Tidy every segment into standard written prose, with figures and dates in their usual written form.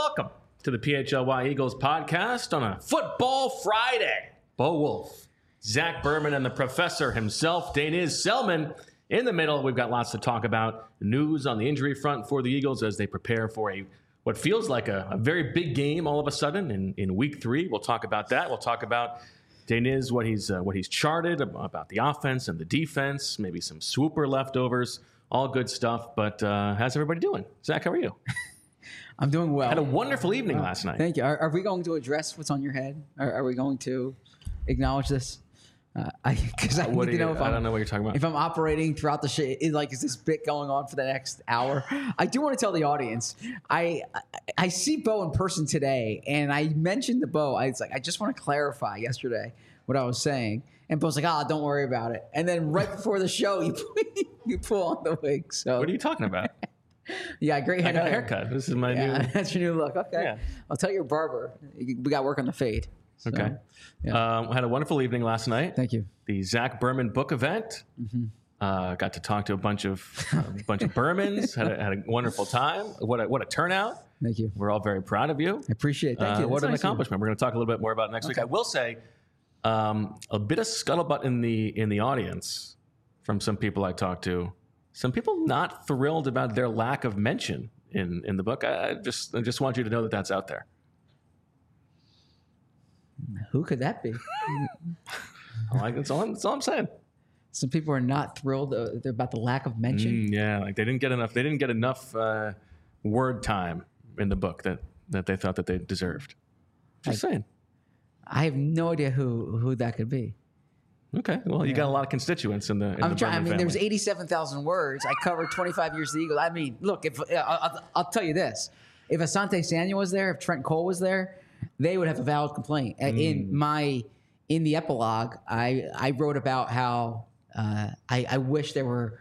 welcome to the PHLY Eagles podcast on a Football Friday. Bo Wolf, Zach Berman, and the professor himself, Daniz Selman. In the middle, we've got lots to talk about. News on the injury front for the Eagles as they prepare for what feels like a very big game all of a sudden in week 3. We'll talk about that. We'll talk about Daniz, what he's charted about the offense and the defense, maybe some swooper leftovers, all good stuff. But how's everybody doing? Zach, how are you? I'm doing well. Had a wonderful evening last night. Thank you. Are we going to address what's on your head? Are we going to acknowledge this? Because I need to know if I don't know what you're talking about. If I'm operating throughout the shit, is this bit going on for the next hour? I do want to tell the audience, I see Bo in person today, and I mentioned to Bo, I just want to clarify yesterday what I was saying. And Bo's like, don't worry about it. And then right before the show, you pull on the wig. So what are you talking about? Yeah, great I got a haircut. This is my new. That's your new look. Okay. Yeah. I'll tell your barber. We got work on the fade. So, okay. Yeah. Had a wonderful evening last night. Thank you. The Zach Berman book event. Mm-hmm. Got to talk to a bunch of Bermans. Had a wonderful time. What a turnout. Thank you. We're all very proud of you. I appreciate it. Thank you. What an accomplishment. We're going to talk a little bit more about it next week. I will say a bit of scuttlebutt in the audience from some people I talked to. Some people not thrilled about their lack of mention in the book. I just want you to know that that's out there. Who could that be? That's all I'm saying. Some people are not thrilled about the lack of mention. Yeah, like they didn't get enough word time in the book that they thought that they deserved. Just saying. I have no idea who that could be. Okay, well, you got a lot of constituents in the. I'm trying. family. There was 87,000 words. I covered 25 years of the Eagles. I mean, look, if I'll tell you this: if Asante Samuel was there, if Trent Cole was there, they would have a valid complaint. In the epilogue, I wrote about how I wish there were.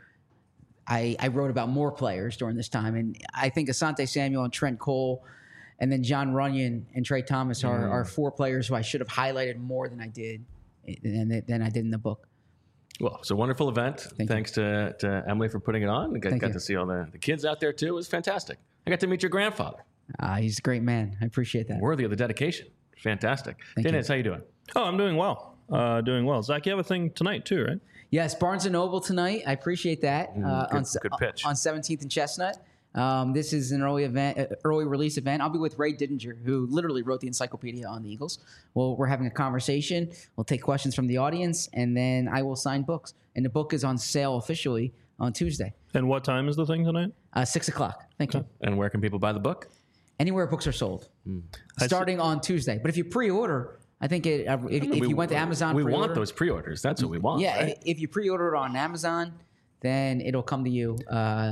I wrote about more players during this time, and I think Asante Samuel and Trent Cole, and then John Runyon and Trey Thomas are 4 players who I should have highlighted more than I did. Than I did in the book. Well, it's a wonderful event. Thanks to Emily for putting it on. Got to see all the kids out there, too. It was fantastic. I got to meet your grandfather. He's a great man. I appreciate that. Worthy of the dedication. Fantastic. Dennis, how you doing? Oh, I'm doing well. Zach, you have a thing tonight, too, right? Yes, Barnes & Noble tonight. I appreciate that. Good pitch. On 17th and Chestnut. This is an early release event. I'll be with Ray Didinger, who literally wrote the encyclopedia on the Eagles. Well, we're having a conversation. We'll take questions from the audience, and then I will sign books. And the book is on sale officially on Tuesday. And what time is the thing tonight? 6 o'clock. Thank you. And where can people buy the book? Anywhere books are sold. Starting on Tuesday. But if you pre-order, I think if you went to Amazon, we want those pre-orders. That's what we want. Yeah, right? If you pre-order it on Amazon, then it'll come to you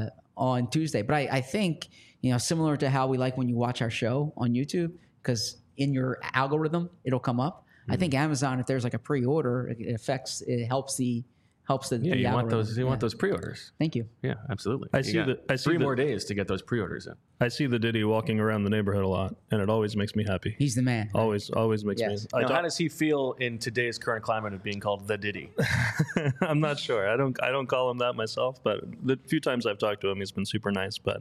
on Tuesday. But I think, similar to how we like when you watch our show on YouTube, because in your algorithm, it'll come up. I think Amazon, if there's like a pre-order, it helps the you algorithm. want those pre-orders. Thank you. Yeah, absolutely. I see 3 more days to get those pre-orders in. I see the Diddy walking around the neighborhood a lot, and it always makes me happy. He's the man. Always makes me. Now, how does he feel in today's current climate of being called the Diddy? I'm not sure. I don't call him that myself, but the few times I've talked to him, he's been super nice. But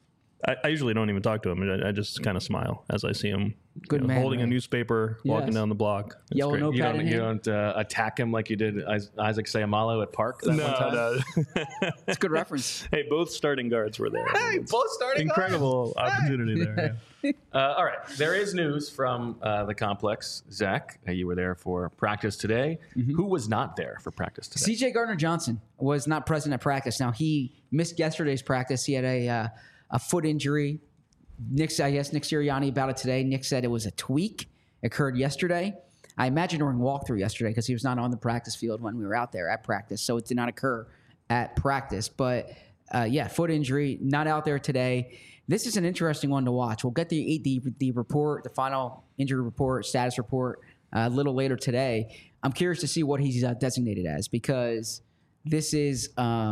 I usually don't even talk to him. I just kind of smile as I see him holding a newspaper, walking down the block. It's Yellow great. notepad You don't attack him like you did Isaac Sayamalo at Park that one time? No. It's a good reference. Hey, both starting guards were there. Hey, both starting Incredible opportunity there. Yeah. All right. There is news from the complex. Zach, you were there for practice today. Mm-hmm. Who was not there for practice today? C.J. Gardner-Johnson was not present at practice. Now, he missed yesterday's practice. He had a foot injury. Nick Sirianni about it today. Nick said it was a tweak. It occurred yesterday. I imagine during walkthrough yesterday because he was not on the practice field when we were out there at practice. So it did not occur at practice. But, foot injury, not out there today. This is an interesting one to watch. We'll get the report, the final injury report, status report a little later today. I'm curious to see what he's designated as because this is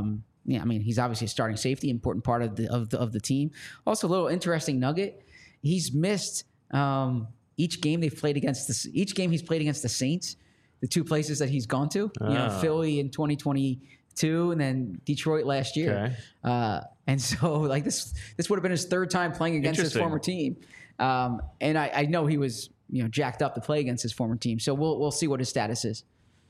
he's obviously a starting safety, important part of the team. Also, a little interesting nugget: he's missed each game he's played against the Saints, the 2 places that he's gone to. Philly in 2022, and then Detroit last year. Okay. And so, this would have been his 3rd time playing against his former team. And I know he was jacked up to play against his former team. So we'll see what his status is.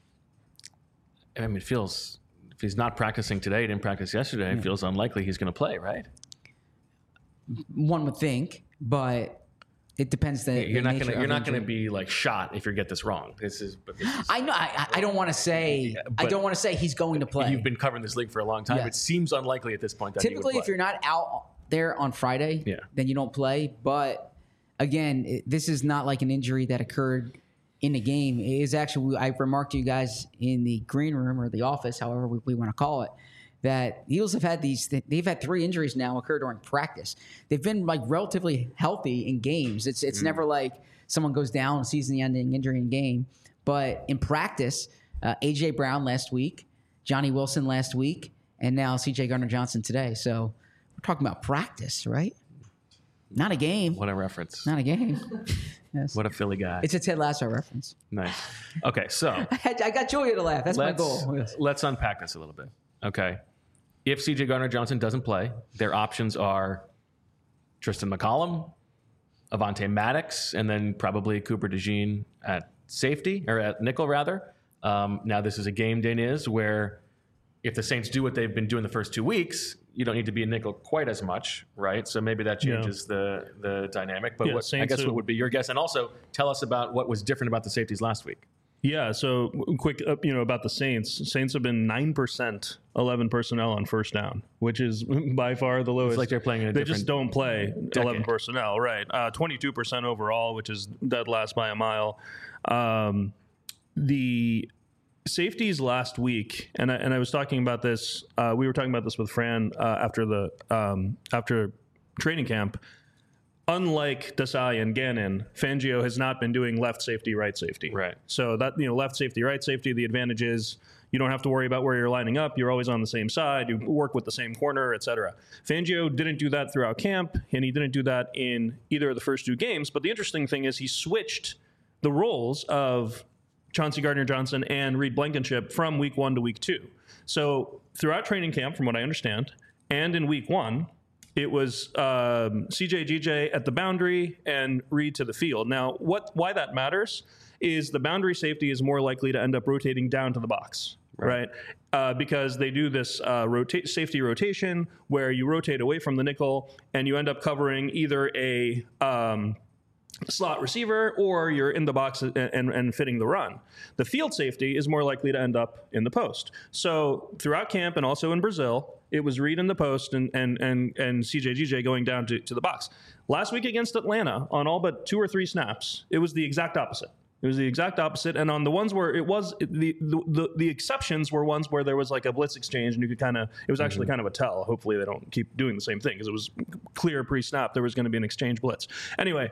I mean, it feels, if he's not practicing today, he didn't practice yesterday, it feels unlikely he's going to play, right? One would think, but it depends. You're not going to be like shot if you get this wrong. This is I know. I don't want to say. I don't want to say he's going to play. You've been covering this league for a long time. Yes. It seems unlikely at this point that typically, if you're not out there on Friday, then you don't play. But again, this is not like an injury that occurred in the game. It is actually, I remarked to you guys in the green room or the office, however we want to call it, that Eagles have had they've had 3 injuries now occur during practice. They've been like relatively healthy in games. It's never like someone goes down, season-ending injury in game. But in practice, A.J. Brown last week, Johnny Wilson last week, and now C.J. Gardner-Johnson today. So we're talking about practice, right? Not a game. What a reference. Not a game. Yes. What a Philly guy. It's a Ted Lasso reference. Nice. Okay, so. I got Julia to laugh. That's my goal. Yes. Let's unpack this a little bit. Okay. If C.J. Gardner-Johnson doesn't play, their options are Tristan McCollum, Avonte Maddox, and then probably Cooper DeJean at safety, or at nickel, rather. Now, this is a game, Daniz, where if the Saints do what they've been doing the first 2 weeks, you don't need to be a nickel quite as much, right? So maybe that changes the dynamic. But I guess what would be your guess? And also tell us about what was different about the safeties last week. Yeah, so quick, about the Saints. Saints have been 9% 11 personnel on first down, which is by far the lowest. It's like they're playing in a different They just don't play 11 personnel, right? 22% overall, which is dead last by a mile. The safeties last week, and I was talking about this. We were talking about this with Fran after training camp. Unlike Desai and Gannon, Fangio has not been doing left safety, right safety. Right. So that left safety, right safety. The advantage is you don't have to worry about where you're lining up. You're always on the same side. You work with the same corner, etc. Fangio didn't do that throughout camp, and he didn't do that in either of the first 2 games. But the interesting thing is he switched the roles of Chauncey Gardner-Johnson and Reed Blankenship from week 1 to week 2. So throughout training camp, from what I understand, and in week 1, it was CJ GJ at the boundary and Reed to the field. Now, why that matters is the boundary safety is more likely to end up rotating down to the box, right? Because they do this safety rotation where you rotate away from the nickel and you end up covering either a slot receiver or you're in the box and fitting the run. The field safety is more likely to end up in the post. So throughout camp and also in Brazil, it was Reed in the post and CJ GJ going down to the box. Last week against Atlanta, on all but 2 or 3 snaps, it was the exact opposite. It was the exact opposite. And on the ones where it was, the exceptions were ones where there was like a blitz exchange and you could it was actually kind of a tell. Hopefully they don't keep doing the same thing because it was clear pre-snap there was going to be an exchange blitz. Anyway,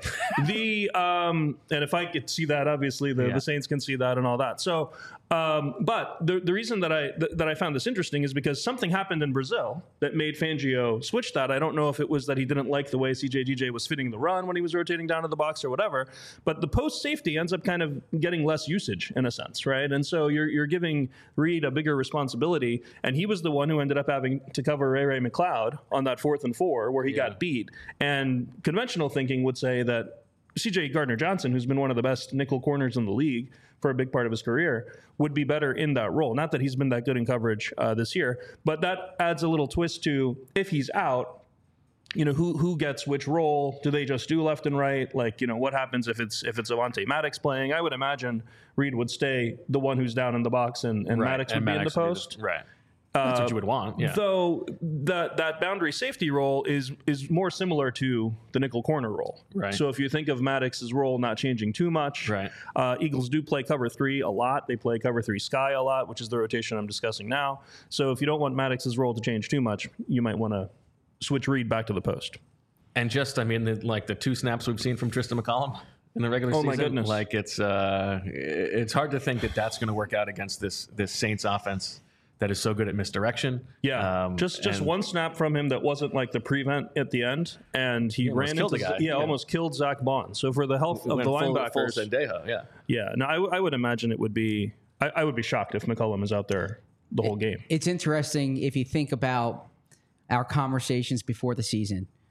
and if I could see that, obviously the Saints can see that and all that. So, but the reason that I found this interesting is because something happened in Brazil that made Fangio switch that. I don't know if it was that he didn't like the way CJ GJ was fitting the run when he was rotating down to the box or whatever, but the post safety ends up kind of getting less usage in a sense, right? And so you're giving Reed a bigger responsibility, and he was the one who ended up having to cover Ray McLeod on that 4th and 4 where he got beat. And conventional thinking would say that CJ Gardner-Johnson, who's been one of the best nickel corners in the league for a big part of his career, would be better in that role. Not that he's been that good in coverage this year, but that adds a little twist to if he's out, who gets which role? Do they just do left and right? Like, what happens if it's Avonte Maddox playing? I would imagine Reed would stay the one who's down in the box and Maddox would be in the post. Right. That's what you would want. Yeah. Though that boundary safety role is more similar to the nickel corner role. Right. So if you think of Maddox's role not changing too much, right. Eagles do play cover 3 a lot. They play cover 3 sky a lot, which is the rotation I'm discussing now. So if you don't want Maddox's role to change too much, you might want to switch Reed back to the post. And just, the 2 snaps we've seen from Tristan McCollum in the regular season. Oh my goodness! Like it's hard to think that that's going to work out against this Saints offense that is so good at misdirection. Yeah, just one snap from him that wasn't like the prevent at the end, and he ran into the guy. Almost killed Zach Bond. So for the health of the linebackers, full Sendejo, yeah. No, I would imagine it would be. I would be shocked if McCollum is out there the whole game. It's interesting if you think about our conversations before the season.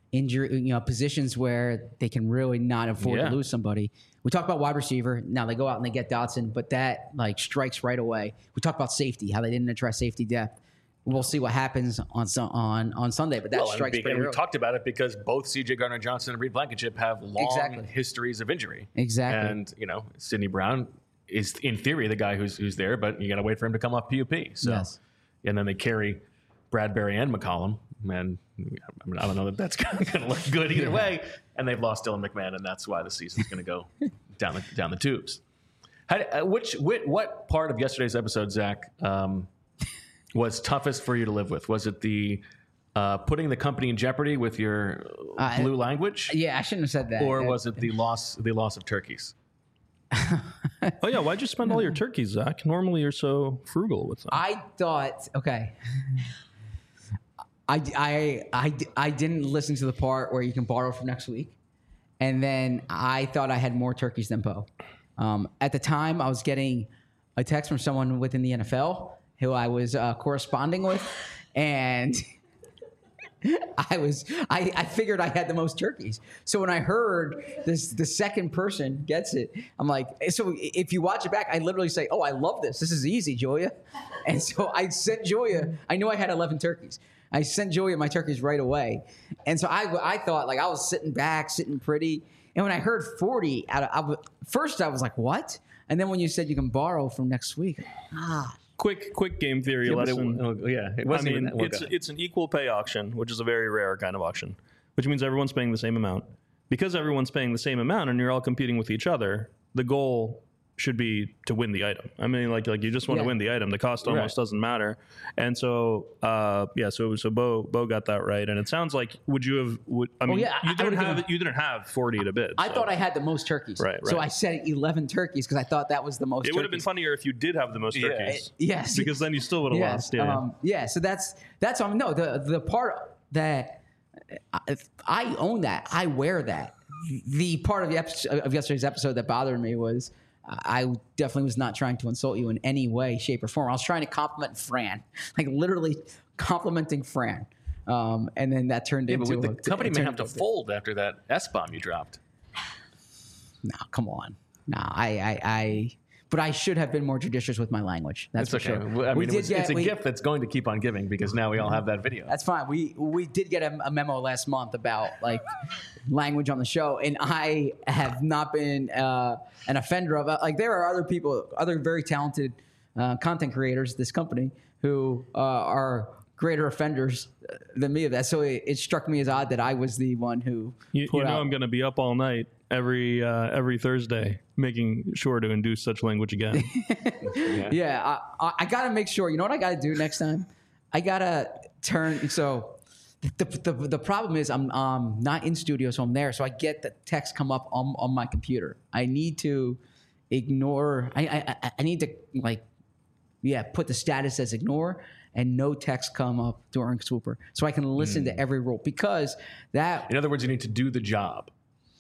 injury, positions where they can really not afford to lose somebody. We talked about wide receiver. Now they go out and they get Dotson, but that strikes right away. We talked about safety, how they didn't address safety depth. We'll see what happens on Sunday, but that strikes pretty early. We talked about it because both C.J. Gardner-Johnson and Reed Blankenship have long histories of injury. Exactly. And, Sidney Brown is, in theory, the guy who's there, but you got to wait for him to come off PUP. So, yes. And then they carry Bradbury and McCollum, and I don't know that's going to look good either way. And they've lost Dylan McMahon, and that's why the season's going to go down the tubes. What part of yesterday's episode, Zach, was toughest for you to live with? Was it the putting the company in jeopardy with your blue language? Yeah, I shouldn't have said that. Or was it the loss of turkeys? Oh yeah, why'd you spend all your turkeys, Zach? Normally you're so frugal with them. I thought, okay. I didn't listen to the part where you can borrow for next week, and then I thought I had more turkeys than Bo. At the time, I was getting a text from someone within the NFL who I was corresponding with, and I figured I had the most turkeys. So when I heard the second person gets it, I'm like, so if you watch it back, I literally say, oh, I love this. This is easy, Julia. And so I sent Julia, I knew I had 11 turkeys. I sent Julia my turkeys right away. And so I thought, I was sitting back, sitting pretty. And when I heard 40, first I was like, what? And then when you said you can borrow from next week, Quick game theory lesson. It wasn't. It's an equal pay auction, which is a very rare kind of auction, which means everyone's paying the same amount. Because everyone's paying the same amount and you're all competing with each other, the goal should be to win the item. I mean, you just want to win the item. The cost almost doesn't matter. And so, so Bo got that right. And it sounds like, you didn't have 40 to bid. I thought I had the most turkeys. Right. So I said 11 turkeys because I thought that was the most. It would have been funnier if you did have the most turkeys. Yes. Because then you still would have lost. Yeah. So that's no, the part that I own that. I wear that. The part of yesterday's episode that bothered me was, I definitely was not trying to insult you in any way, shape, or form. I was trying to compliment Fran, literally complimenting Fran. And then that turned into the company may have to fold after that S-bomb you dropped. No, come on. No, but I should have been more judicious with my language. That's for sure. I mean, it's a gift that's going to keep on giving because now we all have that video. That's fine. We did get a memo last month about language on the show, and I have not been an offender of it. There are other people, other very talented content creators at this company who are greater offenders than me of that. So it struck me as odd that I was the one who I'm going to be up all night every Thursday making sure to induce such language again. I got to make sure. You know what I got to do next time? I got to turn. So the problem is I'm not in studio, so I'm there. So I get the text come up on my computer. I need to ignore. I need to put the status as ignore and no text come up during Swooper, so I can listen to every rule because that. In other words, you need to do the job.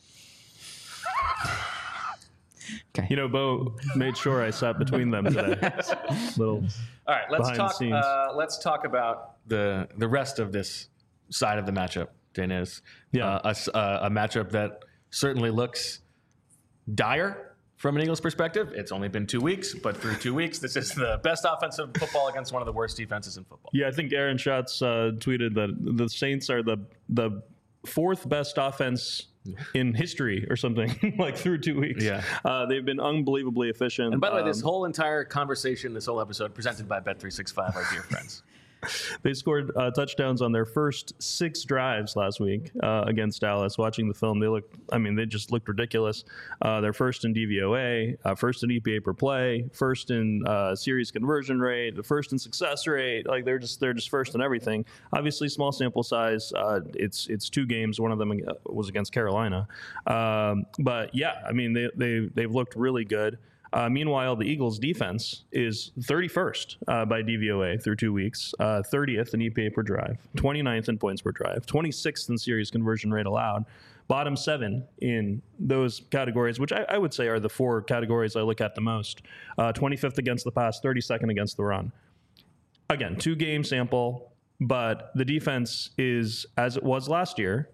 Okay. Bo made sure I sat between them today. All right, let's talk about the rest of this side of the matchup, Dennis. Yeah. A matchup that certainly looks dire from an Eagles perspective. It's only been 2 weeks, but through 2 weeks, this is the best offensive football against one of the worst defenses in football. Yeah, I think Aaron Schatz tweeted that the Saints are the fourth best offense in history or something through 2 weeks. Yeah. They've been unbelievably efficient. And by the way, this whole entire conversation, this whole episode presented by Bet365, our dear friends. They scored touchdowns on their first 6 drives last week against Dallas. Watching the film, they just looked ridiculous. They're first in DVOA, first in EPA per play, first in series conversion rate, first in success rate. They're just first in everything. Obviously, small sample size. It's 2 games. One of them was against Carolina. But yeah, they've looked really good. Meanwhile, the Eagles' defense is 31st by DVOA through 2 weeks, 30th in EPA per drive, 29th in points per drive, 26th in series conversion rate allowed, bottom 7 in those categories, which I would say are the 4 categories I look at the most. 25th against the pass, 32nd against the run. Again, 2-game sample, but the defense is, as it was last year,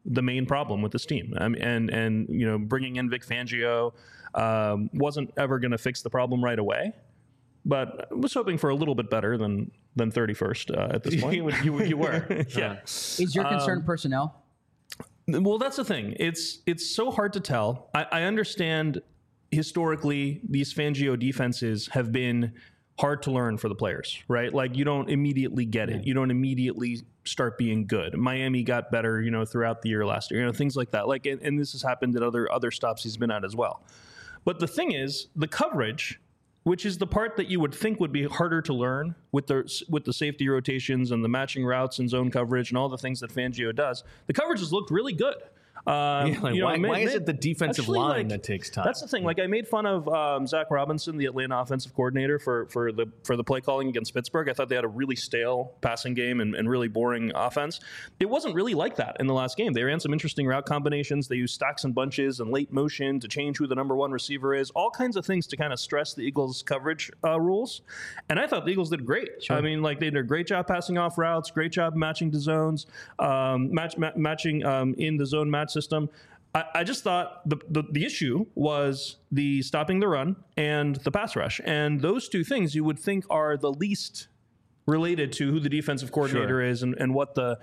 the main problem with this team. And you know, bringing in Vic Fangio wasn't ever going to fix the problem right away, but I was hoping for a little bit better than 31st at this point. you were. Yeah. Is your concern personnel? Well, that's the thing. It's so hard to tell. I understand historically these Fangio defenses have been hard to learn for the players, right? Like, you don't immediately get it. You don't immediately start being good. Miami got better, you know, throughout the year last year, you know, things like that. Like, and this has happened at other stops he's been at as well. But the thing is, the coverage, which is the part that you would think would be harder to learn with the safety rotations and the matching routes and zone coverage and all the things that Fangio does, the coverage has looked really good. Why is it the defensive line that takes time? That's the thing. Like, I made fun of Zach Robinson, the Atlanta offensive coordinator, for the play calling against Pittsburgh. I thought they had a really stale passing game and really boring offense. It wasn't really like that in the last game. They ran some interesting route combinations. They used stacks and bunches and late motion to change who the number one receiver is. All kinds of things to kind of stress the Eagles' coverage rules. And I thought the Eagles did great. Sure. I mean, like, they did a great job passing off routes, great job matching to zones, matching in the zone match system. I just thought the issue was the stopping the run and the pass rush. And those two things you would think are the least related to who the defensive coordinator is and what the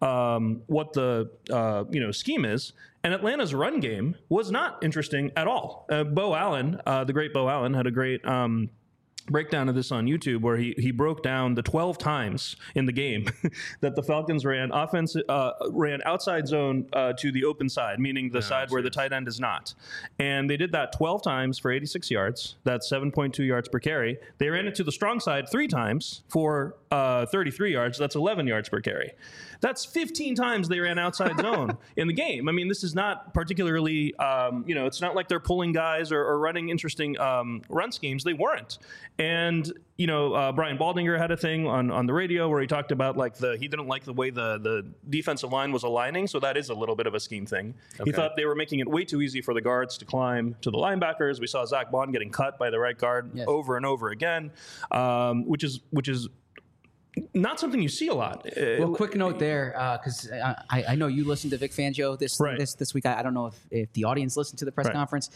scheme is. And Atlanta's run game was not interesting at all. Bo Allen, the great Bo Allen, had a great breakdown of this on YouTube where he broke down the 12 times in the game that the Falcons ran outside zone to the open side, meaning the side where the tight end is not. And they did that 12 times for 86 yards. That's 7.2 yards per carry. They ran it to the strong side 3 times for 33 yards. That's 11 yards per carry. That's 15 times they ran outside zone in the game. I mean, this is not particularly, it's not like they're pulling guys or running interesting run schemes. They weren't. And, Brian Baldinger had a thing on the radio where he talked about he didn't like the way the defensive line was aligning. So that is a little bit of a scheme thing. Okay. He thought they were making it way too easy for the guards to climb to the linebackers. We saw Zach Bond getting cut by the right guard over and over again, which is not something you see a lot. Well, quick note there, because I know you listened to Vic Fangio this week. I don't know if the audience listened to the press conference.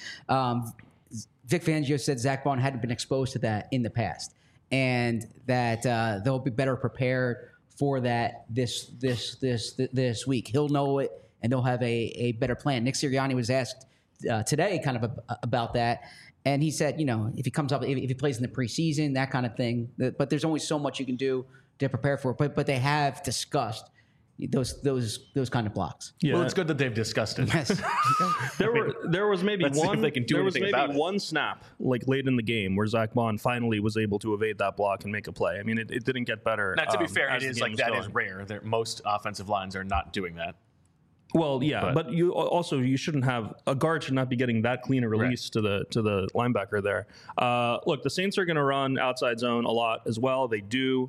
Vic Fangio said Zach Bond hadn't been exposed to that in the past, and that they'll be better prepared for that this week. He'll know it, and they'll have a better plan. Nick Sirianni was asked today kind of about that. And he said, if he comes up, if he plays in the preseason, that kind of thing. But there's only so much you can do to prepare for it. But they have discussed those kind of blocks. Yeah. Well, it's good that they've discussed it. Yes. there was maybe one snap like late in the game where Zach Bond finally was able to evade that block and make a play. I mean, it didn't get better. Now, to be fair, it is is rare. Most offensive lines are not doing that. Well, yeah, but you shouldn't have a guard should not be getting that clean a release to the linebacker there. Look, the Saints are going to run outside zone a lot as well. They do.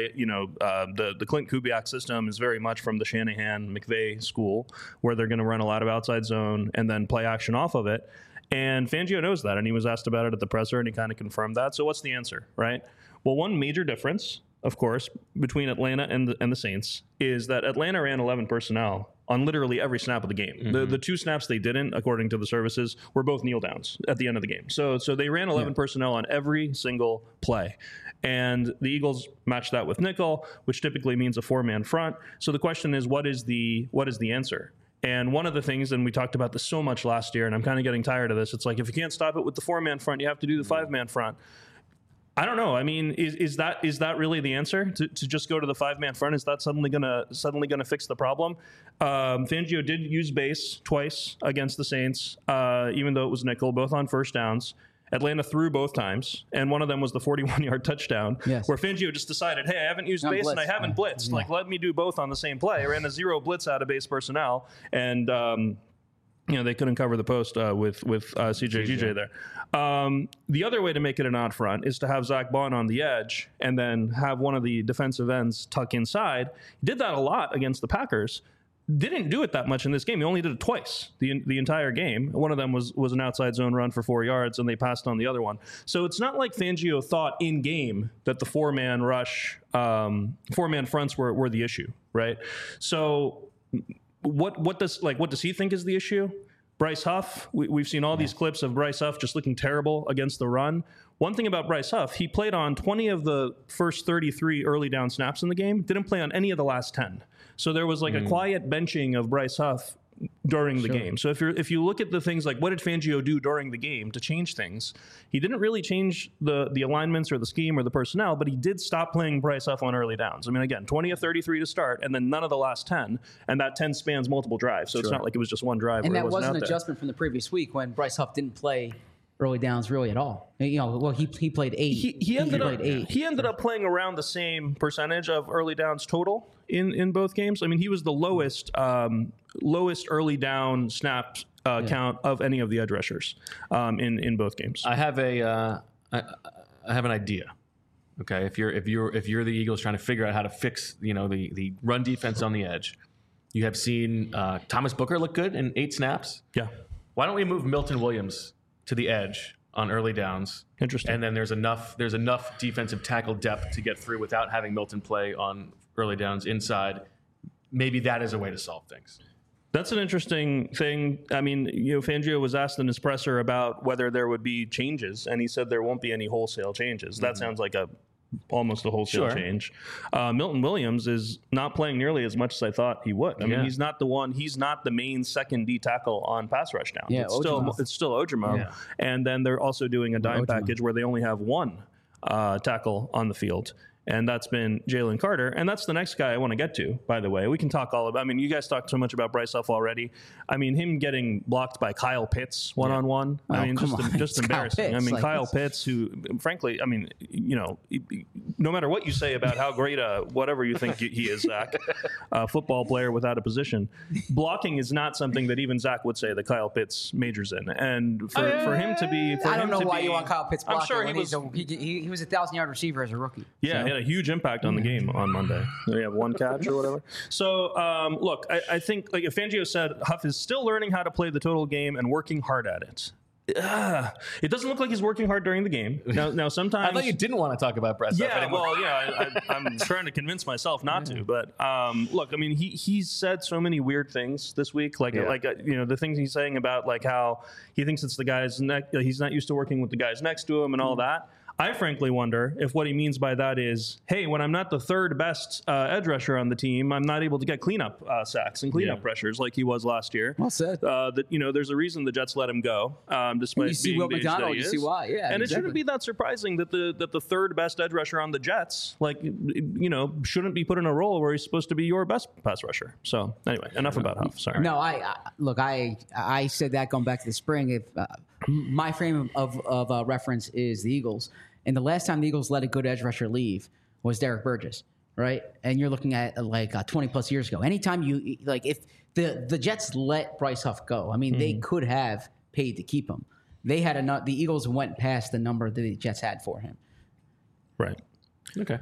The Clint Kubiak system is very much from the Shanahan McVay school, where they're going to run a lot of outside zone and then play action off of it. And Fangio knows that, and he was asked about it at the presser, and he kind of confirmed that. So what's the answer, right? Well, one major difference, of course, between Atlanta and the Saints is that Atlanta ran 11 personnel on literally every snap of the game. Mm-hmm. The 2 snaps they didn't, according to the services, were both kneel downs at the end of the game. So they ran 11 personnel on every single play. And the Eagles matched that with nickel, which typically means a 4-man front. So the question is, what is the answer? And one of the things, and we talked about this so much last year, and I'm kind of getting tired of this, it's like if you can't stop it with the 4-man front, you have to do the 5-man front. I don't know. I mean, is that really the answer to just go to the 5-man front? Is that suddenly gonna fix the problem? Fangio did use base twice against the Saints, even though it was nickel, both on first downs. Atlanta threw both times, and one of them was the 41-yard touchdown, where Fangio just decided, hey, I haven't used base and I haven't blitzed. Like, let me do both on the same play. I ran a 0 blitz out of base personnel, and they couldn't cover the post with CJ there. The other way to make it an odd front is to have Zach Bond on the edge and then have one of the defensive ends tuck inside. He did that a lot against the Packers. Didn't do it that much in this game. He only did it twice the entire game. One of them was an outside zone run for 4 yards, and they passed on the other one. So it's not like Fangio thought in game that the 4-man rush, 4-man fronts were the issue, right? So what does he think is the issue? Bryce Huff, we've seen all these clips of Bryce Huff just looking terrible against the run. One thing about Bryce Huff, he played on 20 of the first 33 early down snaps in the game, didn't play on any of the last 10. So there was like a quiet benching of Bryce Huff during the game. So if you look at the things like what did Fangio do during the game to change things, he didn't really change the alignments or the scheme or the personnel, but he did stop playing Bryce Huff on early downs. I mean, again, 20 of 33 to start, and then none of the last 10, and that 10 spans multiple drives. So it's not like it was just one drive. And that was an adjustment from the previous week when Bryce Huff didn't play early downs really at all. You know, well, he played 8. He ended up playing around the same percentage of early downs total in both games. I mean, he was the lowest early down snap count of any of the edge rushers in both games. I have I have an idea. Okay, if you're the Eagles trying to figure out how to fix the run defense on the edge, you have seen Thomas Booker look good in 8 snaps. Yeah. Why don't we move Milton Williams to the edge on early downs? Interesting. And then there's enough defensive tackle depth to get through without having Milton play on early downs inside. Maybe that is a way to solve things. That's an interesting thing. I mean, Fangio was asked in his presser about whether there would be changes, and he said there won't be any wholesale changes. That sounds like almost a wholesale change. Milton Williams is not playing nearly as much as I thought he would. I mean, he's not the main second D tackle on pass rush now. Yeah, it's still Ojimo. Yeah. And then they're also doing a dime package where they only have one tackle on the field. And that's been Jalen Carter. And that's the next guy I want to get to, by the way. We can talk all about, I mean, you guys talked so much about Bryce Huff already. I mean, him getting blocked by Kyle Pitts one-on-one. I mean, just embarrassing. I mean, Kyle Pitts, who, frankly, I mean, no matter what you say about how great whatever you think he is, Zach, a football player without a position, blocking is not something that even Zach would say that Kyle Pitts majors in. And for him to be... I don't know why you want Kyle Pitts blocking. I'm sure he was a 1,000-yard receiver as a rookie. Yeah, he had a huge impact on the game on Monday. They have one catch or whatever. So, look, I think, like, if Fangio said Huff is still learning how to play the total game and working hard at it. It doesn't look like he's working hard during the game. Now sometimes... I thought you didn't want to talk about Bryce Huff anymore. I'm trying to convince myself not to. But, look, I mean, he's said so many weird things this week. The things he's saying about, like, how he thinks it's the guys... he's not used to working with the guys next to him and all that. I frankly wonder if what he means by that is, hey, when I'm not the third best edge rusher on the team, I'm not able to get cleanup sacks and cleanup pressures like he was last year. Well said. There's a reason the Jets let him go, despite being the age that he is. You see why, yeah. And it shouldn't be that surprising that the third best edge rusher on the Jets, shouldn't be put in a role where he's supposed to be your best pass rusher. So anyway, enough about Huff. Sorry. No, I said that going back to the spring. If my frame of reference is the Eagles. And the last time the Eagles let a good edge rusher leave was Derek Burgess, right? And you're looking at 20-plus years ago. Anytime if the Jets let Bryce Huff go, I mean, they could have paid to keep him. They had the Eagles went past the number that the Jets had for him. Right. Okay.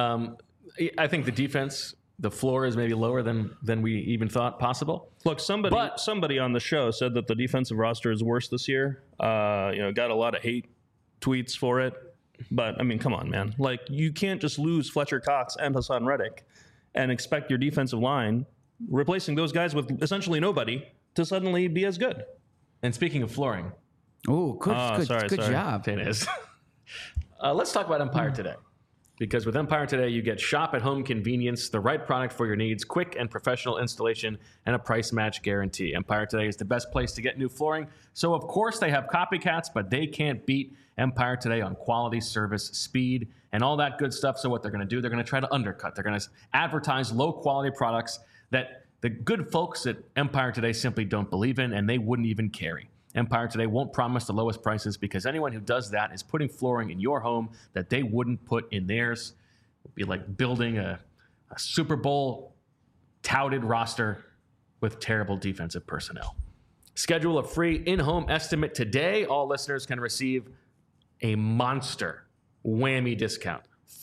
I think the defense, the floor is maybe lower than we even thought possible. Look, somebody on the show said that the defensive roster is worse this year. Got a lot of hate tweets for it. But, I mean, come on, man. Like, you can't just lose Fletcher Cox and Hassan Reddick and expect your defensive line, replacing those guys with essentially nobody, to suddenly be as good. And speaking of flooring. Oh, good job. It is. Let's talk about Empire Today. Because with Empire Today, you get shop-at-home convenience, the right product for your needs, quick and professional installation, and a price match guarantee. Empire Today is the best place to get new flooring. So, of course, they have copycats, but they can't beat Empire Today on quality, service, speed, and all that good stuff. So what they're going to do, they're going to try to undercut. They're going to advertise low-quality products that the good folks at Empire Today simply don't believe in, and they wouldn't even carry. Empire Today won't promise the lowest prices because anyone who does that is putting flooring in your home that they wouldn't put in theirs. It would be like building a Super Bowl touted roster with terrible defensive personnel. Schedule a free in-home estimate today. All listeners can receive a monster whammy discount.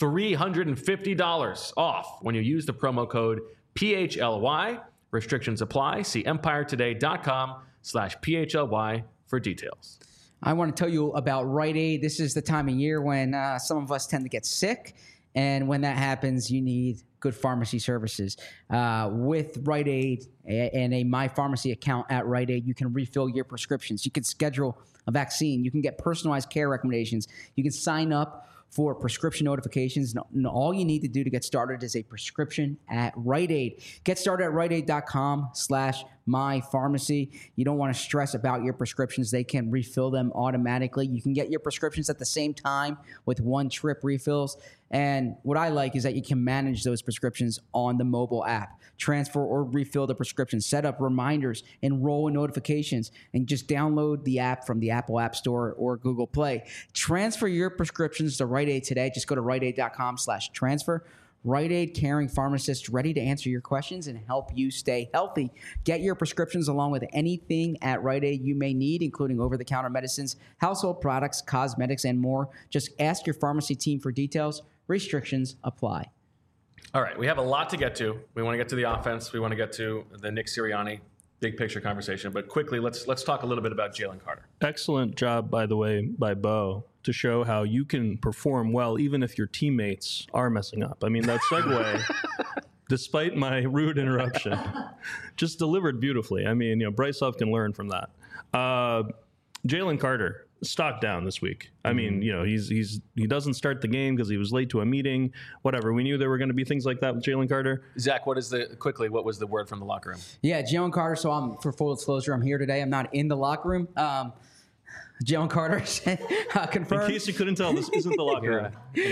$350 off when you use the promo code PHLY. Restrictions apply. See empiretoday.com/PHLY for details. I want to tell you about Rite Aid. This is the time of year when some of us tend to get sick. And when that happens, you need good pharmacy services. With Rite Aid and a My Pharmacy account at Rite Aid, you can refill your prescriptions. You can schedule a vaccine. You can get personalized care recommendations. You can sign up for prescription notifications. And all you need to do to get started is a prescription at Rite Aid. Get started at riteaid.com/mypharmacy. You don't want to stress about your prescriptions. They can refill them automatically. You can get your prescriptions at the same time with one-trip refills. And what I like is that you can manage those prescriptions on the mobile app. Transfer or refill the prescription, set up reminders, enroll in notifications, and just download the app from the Apple App Store or Google Play. Transfer your prescriptions to Rite Aid today. Just go to riteaid.com/transfer. Rite Aid, caring pharmacists ready to answer your questions and help you stay healthy. Get your prescriptions along with anything at Rite Aid you may need, including over-the-counter medicines, household products, cosmetics, and more. Just ask your pharmacy team for details. Restrictions apply. All right, we have a lot to get to. We want to get to the offense. We want to get to the Nick Sirianni big picture conversation. But quickly, let's talk a little bit about Jalen Carter. Excellent job, by the way, by Bo, to show how you can perform well even if your teammates are messing up. I mean, that segue, despite my rude interruption, just delivered beautifully. I mean, Bryce Huff can learn from that. Jalen Carter, stock down this week. I mean, he doesn't start the game because he was late to a meeting, whatever. We knew there were going to be things like that with Jalen Carter. Zach, what was the word from the locker room? Yeah, Jalen Carter. So for full disclosure, I'm here today. I'm not in the locker room. Jalen Carter confirmed. In case you couldn't tell, this isn't the locker room.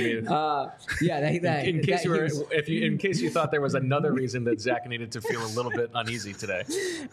In case you thought there was another reason that Zach needed to feel a little bit uneasy today.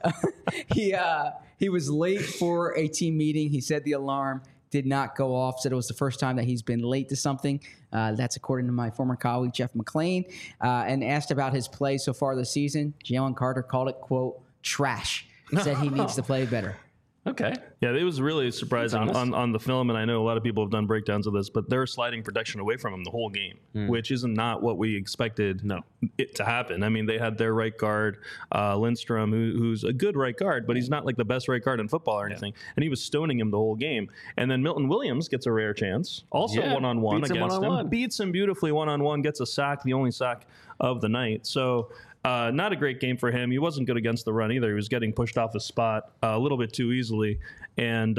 He was late for a team meeting. He said the alarm did not go off. Said it was the first time that he's been late to something. That's according to my former colleague, Jeff McLean. And asked about his play so far this season. Jalen Carter called it, quote, trash. Said he needs to play better. Okay. Yeah, it was really surprising on the film, and I know a lot of people have done breakdowns of this, but they're sliding protection away from him the whole game, which is not what we expected it to happen. I mean, they had their right guard, Lindstrom, who's a good right guard, but he's not like the best right guard in football or anything, and he was stoning him the whole game. And then Milton Williams gets a rare chance, also one-on-one against him, beats him beautifully one-on-one, gets a sack, the only sack of the night. So not a great game for him. He wasn't good against the run either. He was getting pushed off his spot a little bit too easily. And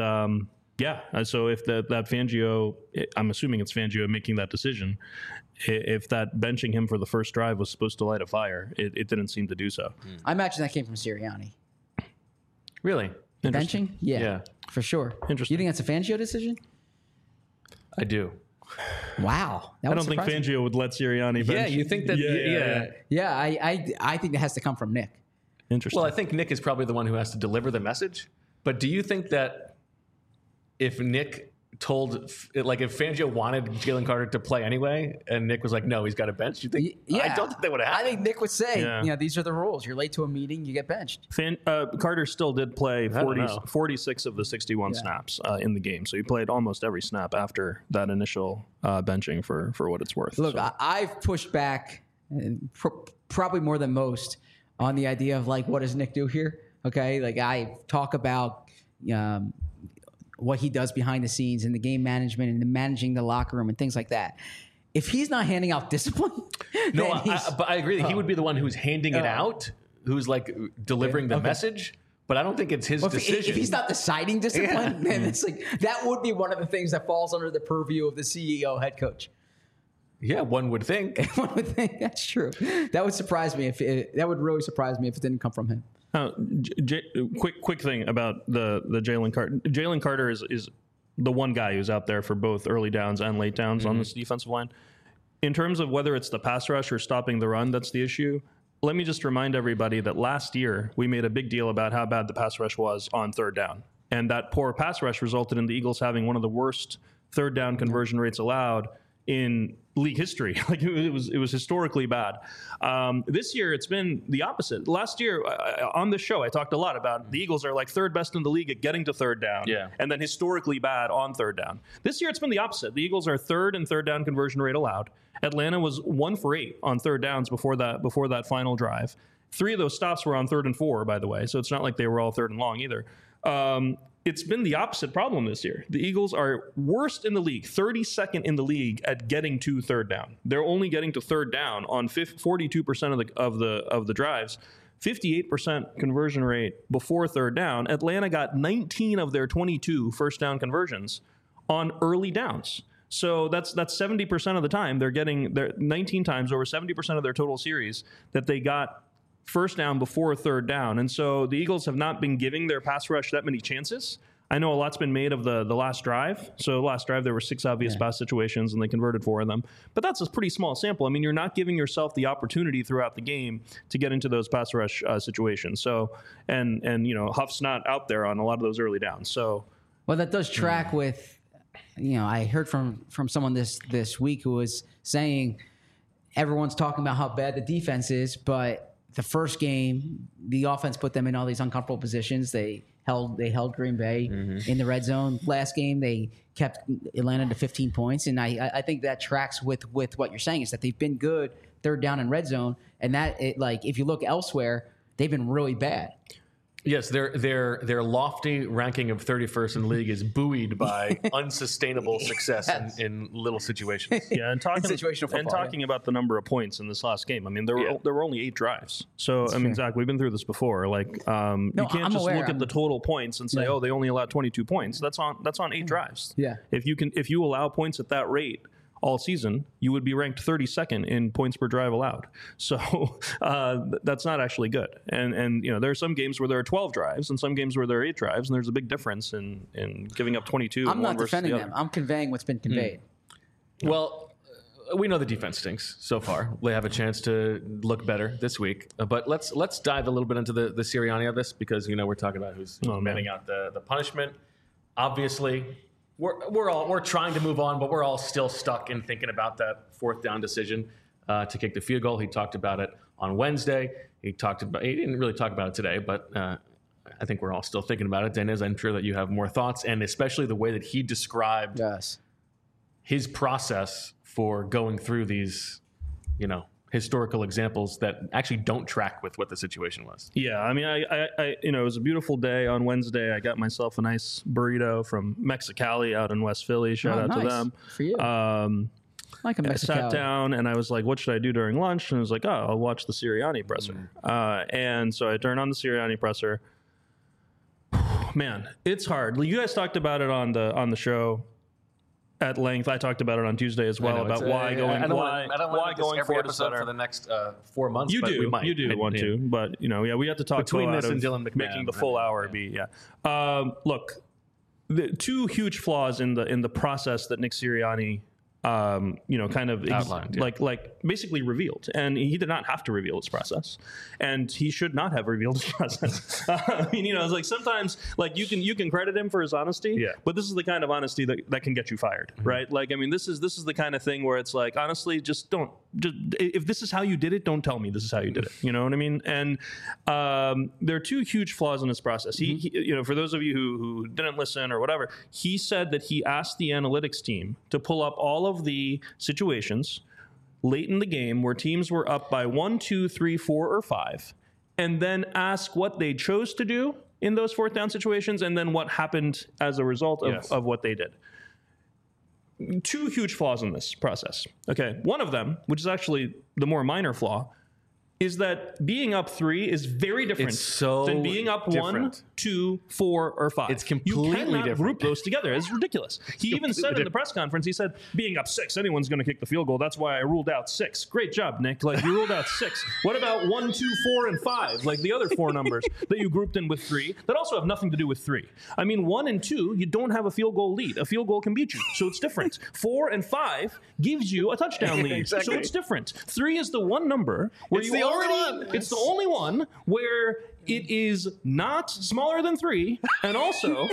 so if that Fangio, I'm assuming it's Fangio making that decision, if that benching him for the first drive was supposed to light a fire, it didn't seem to do so. I imagine that came from Sirianni. Really? Benching? Yeah, for sure. Interesting. You think that's a Fangio decision? I do. Wow. I don't think Fangio would let Sirianni bench. Yeah, you think that? Yeah, I think that has to come from Nick. Interesting. Well, I think Nick is probably the one who has to deliver the message. But do you think that if Nick if Fangio wanted Jalen Carter to play anyway, and Nick was like, no, he's got a bench, you think? Yeah. I don't think that would happen. I think Nick would say, these are the rules. You're late to a meeting, you get benched. Carter still did play 46 of the 61 snaps in the game. So he played almost every snap after that initial benching for what it's worth. Look, I've pushed back probably more than most on the idea of what does Nick do here? Okay. I talk about, what he does behind the scenes and the game management and the managing the locker room and things like that. If he's not handing out discipline, but I agree that he would be the one who's handing it out, who's delivering the message. But I don't think it's his decision. If he's not deciding discipline, then it's that would be one of the things that falls under the purview of the CEO, head coach. Yeah, one would think. One would think that's true. That would surprise me that would really surprise me if it didn't come from him. Quick thing about the Jalen Carter. Jalen Carter is the one guy who's out there for both early downs and late downs on this defensive line. In terms of whether it's the pass rush or stopping the run, that's the issue. Let me just remind everybody that last year we made a big deal about how bad the pass rush was on third down. And that poor pass rush resulted in the Eagles having one of the worst third down conversion rates allowed in league history. It was historically bad. This year it's been the opposite. Last year on this show I talked a lot about the Eagles are third best in the league at getting to third down, and then historically bad on third down. This year it's been the opposite. The Eagles are third in third down conversion rate allowed. Atlanta was 1 for 8 on third downs before that final drive. 3 of those stops were on 3rd and 4, by the way, so it's not like they were all 3rd and long either. it's been the opposite problem this year. The Eagles are worst in the league, 32nd in the league at getting to third down. They're only getting to third down on 42% of the drives. 58% conversion rate before third down. Atlanta got 19 of their 22 first down conversions on early downs. So that's 70% of the time they're getting 19 times, over 70% of their total series that they got first down before third down. And so the Eagles have not been giving their pass rush that many chances. I know a lot's been made of the last drive. So last drive, there were 6 obvious pass situations, and they converted 4 of them. But that's a pretty small sample. I mean, you're not giving yourself the opportunity throughout the game to get into those pass rush situations. So, and Huff's not out there on a lot of those early downs. So, well, that does track with, I heard from someone this week who was saying everyone's talking about how bad the defense is, but the first game, the offense put them in all these uncomfortable positions. They held Green Bay in the red zone. Last game, they kept Atlanta to 15 points, and I think that tracks with what you're saying, is that they've been good third down and red zone, and that if you look elsewhere, they've been really bad. Yes, their lofty ranking of 31st in the league is buoyed by unsustainable success in little situations. Yeah, and talking about the number of points in this last game. I mean, there were only 8 drives. So that's fair. Zach, we've been through this before. Like, you can't look at the total points and say, they only allowed 22 points. That's on 8 drives. Yeah. If you allow points at that rate all season, you would be ranked 32nd in points per drive allowed. So that's not actually good. And there are some games where there are 12 drives and some games where there are 8 drives, and there's a big difference in giving up 22. I'm not defending them. I'm conveying what's been conveyed. Well, we know the defense stinks so far. They have a chance to look better this week. But let's dive a little bit into the Sirianni of this, because we're talking about who's meting out the punishment. Obviously, We're trying to move on, but we're all still stuck in thinking about that fourth down decision to kick the field goal. He talked about it on Wednesday. He didn't really talk about it today, but I think we're all still thinking about it. Dennis, I'm sure that you have more thoughts, and especially the way that he described his process for going through these, historical examples that actually don't track with what the situation was. Yeah, I mean, I it was a beautiful day on Wednesday. I got myself a nice burrito from Mexicali out in West Philly. Shout out to them. For you. Like a Mexicali. I sat down and I was like, what should I do during lunch? And I was like, I'll watch the Sirianni presser. And so I turned on the Sirianni presser. Man, it's hard. You guys talked about it on the show at length. I talked about it on Tuesday as well, about why going forward is better for the next 4 months. You do want to, but we have to talk between this and Dylan McMahon, making the full hour be. Look, the 2 huge flaws in the process that Nick Sirianni kind of outlined, like basically revealed, and he did not have to reveal his process, and he should not have revealed his process. I mean, it's like sometimes like you can credit him for his honesty, but this is the kind of honesty that can get you fired, right? Like, I mean, this is the kind of thing where it's like, honestly, just if this is how you did it, don't tell me this is how you did it. You know what I mean? And there are 2 huge flaws in this process. He for those of you who didn't listen or whatever, he said that he asked the analytics team to pull up all of the situations late in the game where teams were up by 1, 2, 3, 4, or 5, and then ask what they chose to do in those fourth down situations, and then what happened as a result of what they did. 2 huge flaws in this process. Okay, one of them, which is actually the more minor flaw, is that being up 3 is very different than being up 1, 2, 4, or 5. It's completely different. You cannot group those together. It's ridiculous. He even said in the press conference, he said, being up 6, anyone's going to kick the field goal. That's why I ruled out 6. Great job, Nick. Like, you ruled out 6. What about 1, 2, 4, and 5? Like the other 4 numbers that you grouped in with 3 that also have nothing to do with 3. I mean, 1 and 2, you don't have a field goal lead. A field goal can beat you, so it's different. 4 and 5 gives you a touchdown lead, so it's different. 3 is the one number where it's the only one where it is not smaller than 3 and also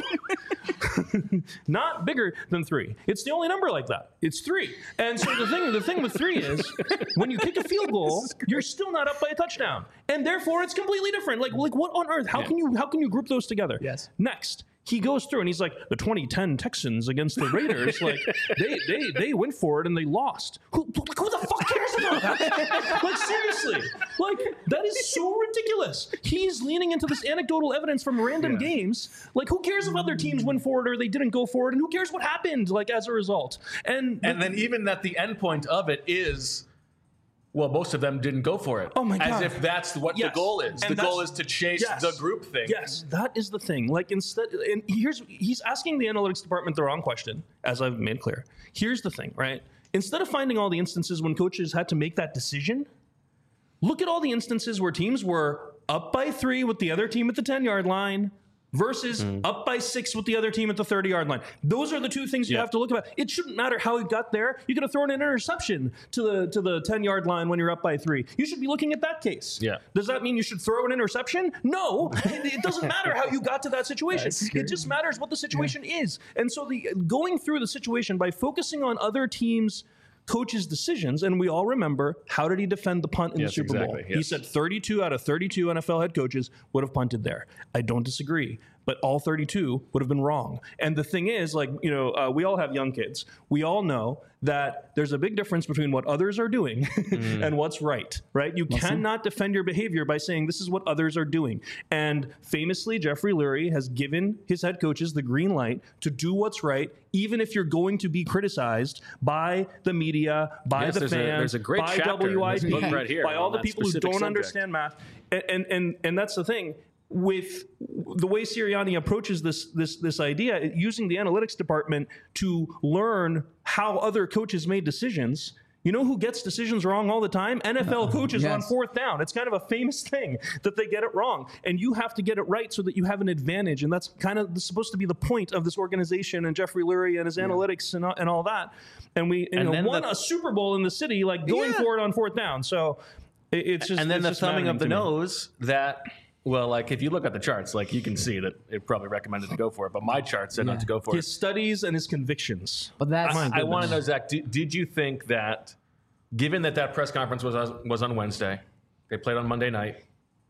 not bigger than 3. It's the only number like that. It's 3. And so the thing with 3 is when you kick a field goal, you're still not up by a touchdown. And therefore it's completely different. Like what on earth? How can you group those together? Yes. Next. He goes through and he's like, the 2010 Texans against the Raiders, like they went for it and they lost. Who the fuck cares about Like, seriously. Like, that is so ridiculous. He's leaning into this anecdotal evidence from random games. Like, who cares if other teams went forward or they didn't go forward? And who cares what happened, like, as a result? And then even that the end point of it is, well, most of them didn't go for it. Oh, my God. As if that's what the goal is. And the goal is to chase the group thing. Yes, that is the thing. Like, instead, and he's asking the analytics department the wrong question, as I've made clear. Here's the thing, right? Instead of finding all the instances when coaches had to make that decision, look at all the instances where teams were up by 3 with the other team at the 10-yard line versus up by 6 with the other team at the 30-yard line. Those are the two things you have to look at. It shouldn't matter how he got there. You could have thrown an interception to the 10-yard line when you're up by 3. You should be looking at that case. Yeah. Does that mean you should throw an interception? No. It doesn't matter how you got to that situation. It just matters what the situation is. And so going through the situation by focusing on other teams' coaches' decisions, and we all remember, how did he defend the punt in the Super Bowl? Yes. He said 32 out of 32 NFL head coaches would have punted there. I don't disagree, but all 32 would have been wrong. And the thing is, like, we all have young kids. We all know that there's a big difference between what others are doing and what's right? You cannot defend your behavior by saying this is what others are doing. And famously, Jeffrey Lurie has given his head coaches the green light to do what's right, even if you're going to be criticized by the media, by the fans, there's a great by WIP, right here, by all the people who don't understand math. And that's the thing. With the way Sirianni approaches this idea, using the analytics department to learn how other coaches made decisions, you know who gets decisions wrong all the time? NFL coaches on 4th down. It's kind of a famous thing that they get it wrong. And you have to get it right so that you have an advantage. And that's kind of supposed to be the point of this organization and Jeffrey Lurie and his analytics and all that. And we won a Super Bowl in the city, like going for it on 4th down. So it's just... And then the thumbing of the nose that... Well, like, if you look at the charts, like, you can see that it probably recommended to go for it, but my chart said not to go for his studies and his convictions. But that's... I want to know, Zach, did you think that, given that press conference was on Wednesday, they played on Monday night,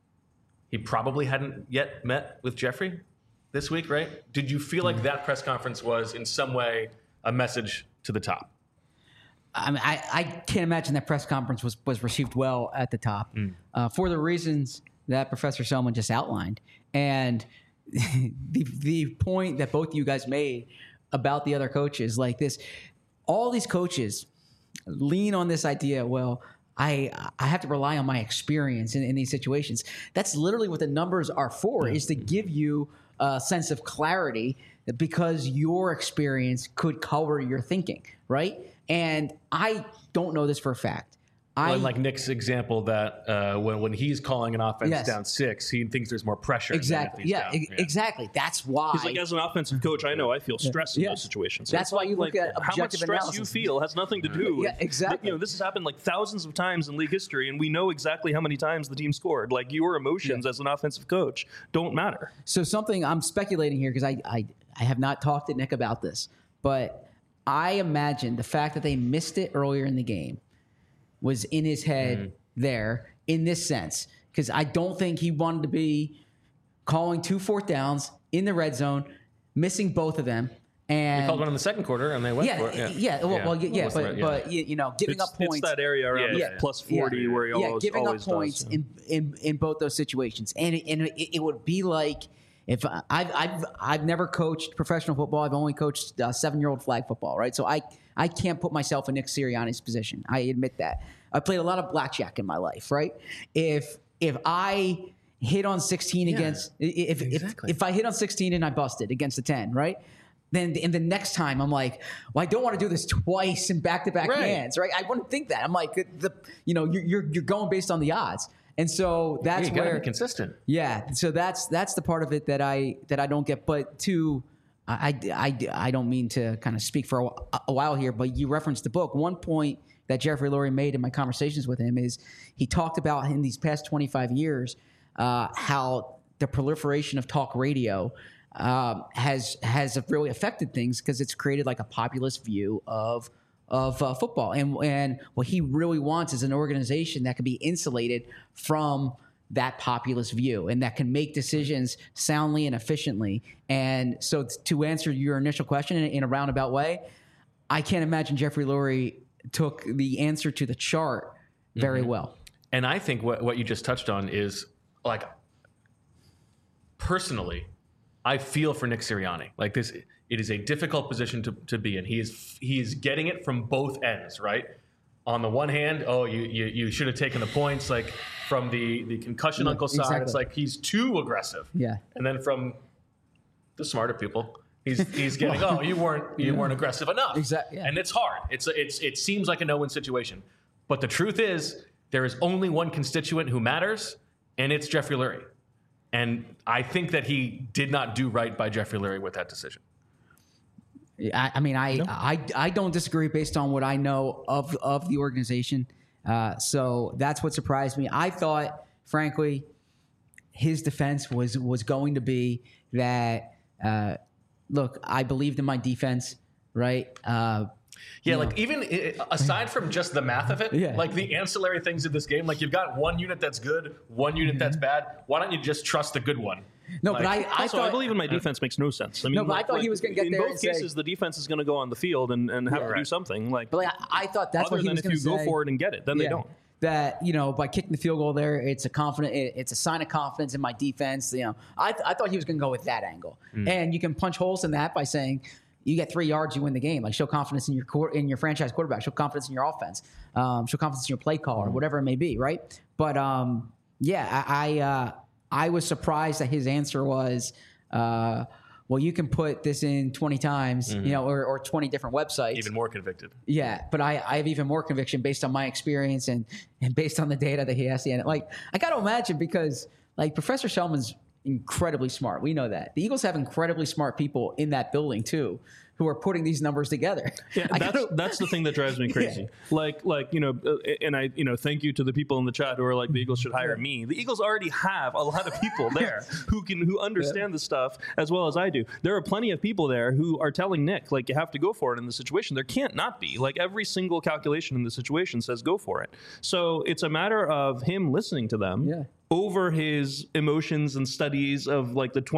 he probably hadn't yet met with Jeffrey this week, right? Did you feel like that press conference was, in some way, a message to the top? I mean, I can't imagine that press conference was received well at the top for the reasons that Professor Selman just outlined. And the point that both of you guys made about the other coaches, like this, all these coaches lean on this idea, well, I have to rely on my experience in these situations. That's literally what the numbers are for, is to give you a sense of clarity because your experience could color your thinking, right? And I don't know this for a fact. Like Nick's example that when he's calling an offense down 6, he thinks there's more pressure. Exactly. Exactly. That's why. He's like, as an offensive coach, I know I feel stress in those situations. That's why you look at objective how much stress analysis. you feel has nothing to do with. Exactly. This has happened like thousands of times in league history, and we know exactly how many times the team scored. Like, your emotions as an offensive coach don't matter. So something I'm speculating here because I have not talked to Nick about this, but I imagine the fact that they missed it earlier in the game was in his head there in this sense, because I don't think he wanted to be calling 2 4th downs in the red zone, missing both of them. And he called one in the second quarter, and they went for it. But giving up points. It's that area around plus 40 where he always giving always up points does, in both those situations, and it would be like if I've never coached professional football. I've only coached 7-year-old flag football, right? So I can't put myself in Nick Sirianni's position. I admit that. I played a lot of blackjack in my life, right? If I hit on 16 against if I hit on 16 and I busted against the 10, right? Then in the next time I'm like, well, I don't want to do this twice in back-to-back hands, right? I wouldn't think that. I'm like, you're going based on the odds. And so that's where be consistent. Yeah. So that's the part of it that I don't get. But I don't mean to kind of speak for a while here, but you referenced the book. One point that Jeffrey Lurie made in my conversations with him is he talked about in these past 25 years how the proliferation of talk radio has really affected things because it's created like a populist view of football. And what he really wants is an organization that can be insulated from that populist view and that can make decisions soundly and efficiently. And so to answer your initial question in a roundabout way, I can't imagine Jeffrey Lurie took the answer to the chart very well. And I think what you just touched on is, like, personally, I feel for Nick Sirianni. Like, this, it is a difficult position to be in. He is getting it from both ends, right? On the one hand, you should have taken the points, like, from the concussion uncle side. Exactly. It's like he's too aggressive. Yeah. And then from the smarter people, he's getting, you weren't aggressive enough. Exactly. Yeah. And it's hard. It seems like a no-win situation. But the truth is, there is only one constituent who matters, and it's Jeffrey Lurie. And I think that he did not do right by Jeffrey Lurie with that decision. I don't disagree based on what I know of the organization. So that's what surprised me. I thought, frankly, his defense was going to be that, look, I believed in my defense, right? Even aside from just the math of it, like the ancillary things of this game, like you've got one unit that's good, one unit that's bad. Why don't you just trust the good one? No, but I thought, I believe in my defense makes no sense. I mean, I thought he was going to get there. In both cases, the defense is going to go on the field and have to do something. Like, but I thought that's what he was going to say. If you go for it and get it, then they don't. That, by kicking the field goal there, it's a sign of confidence in my defense. I thought he was going to go with that angle, and you can punch holes in that by saying, you get 3 yards, you win the game. Like, show confidence in your franchise quarterback. Show confidence in your offense. Show confidence in your play call or whatever it may be, right? But I was surprised that his answer was, well, you can put this in 20 times, or 20 different websites. Even more convicted. Yeah, but I have even more conviction based on my experience and based on the data that he has. Like, I got to imagine, because, like, Professor Shellman's incredibly smart. We know that. The Eagles have incredibly smart people in that building too, who are putting these numbers together. Yeah, that's the thing that drives me crazy. Yeah. And I thank you to the people in the chat who are like, the Eagles should hire me. The Eagles already have a lot of people there who understand the stuff as well as I do. There are plenty of people there who are telling Nick, like, you have to go for it in the situation. There can't not be. Like, every single calculation in the situation says go for it. So it's a matter of him listening to them. Yeah. Over his emotions and studies of, like, the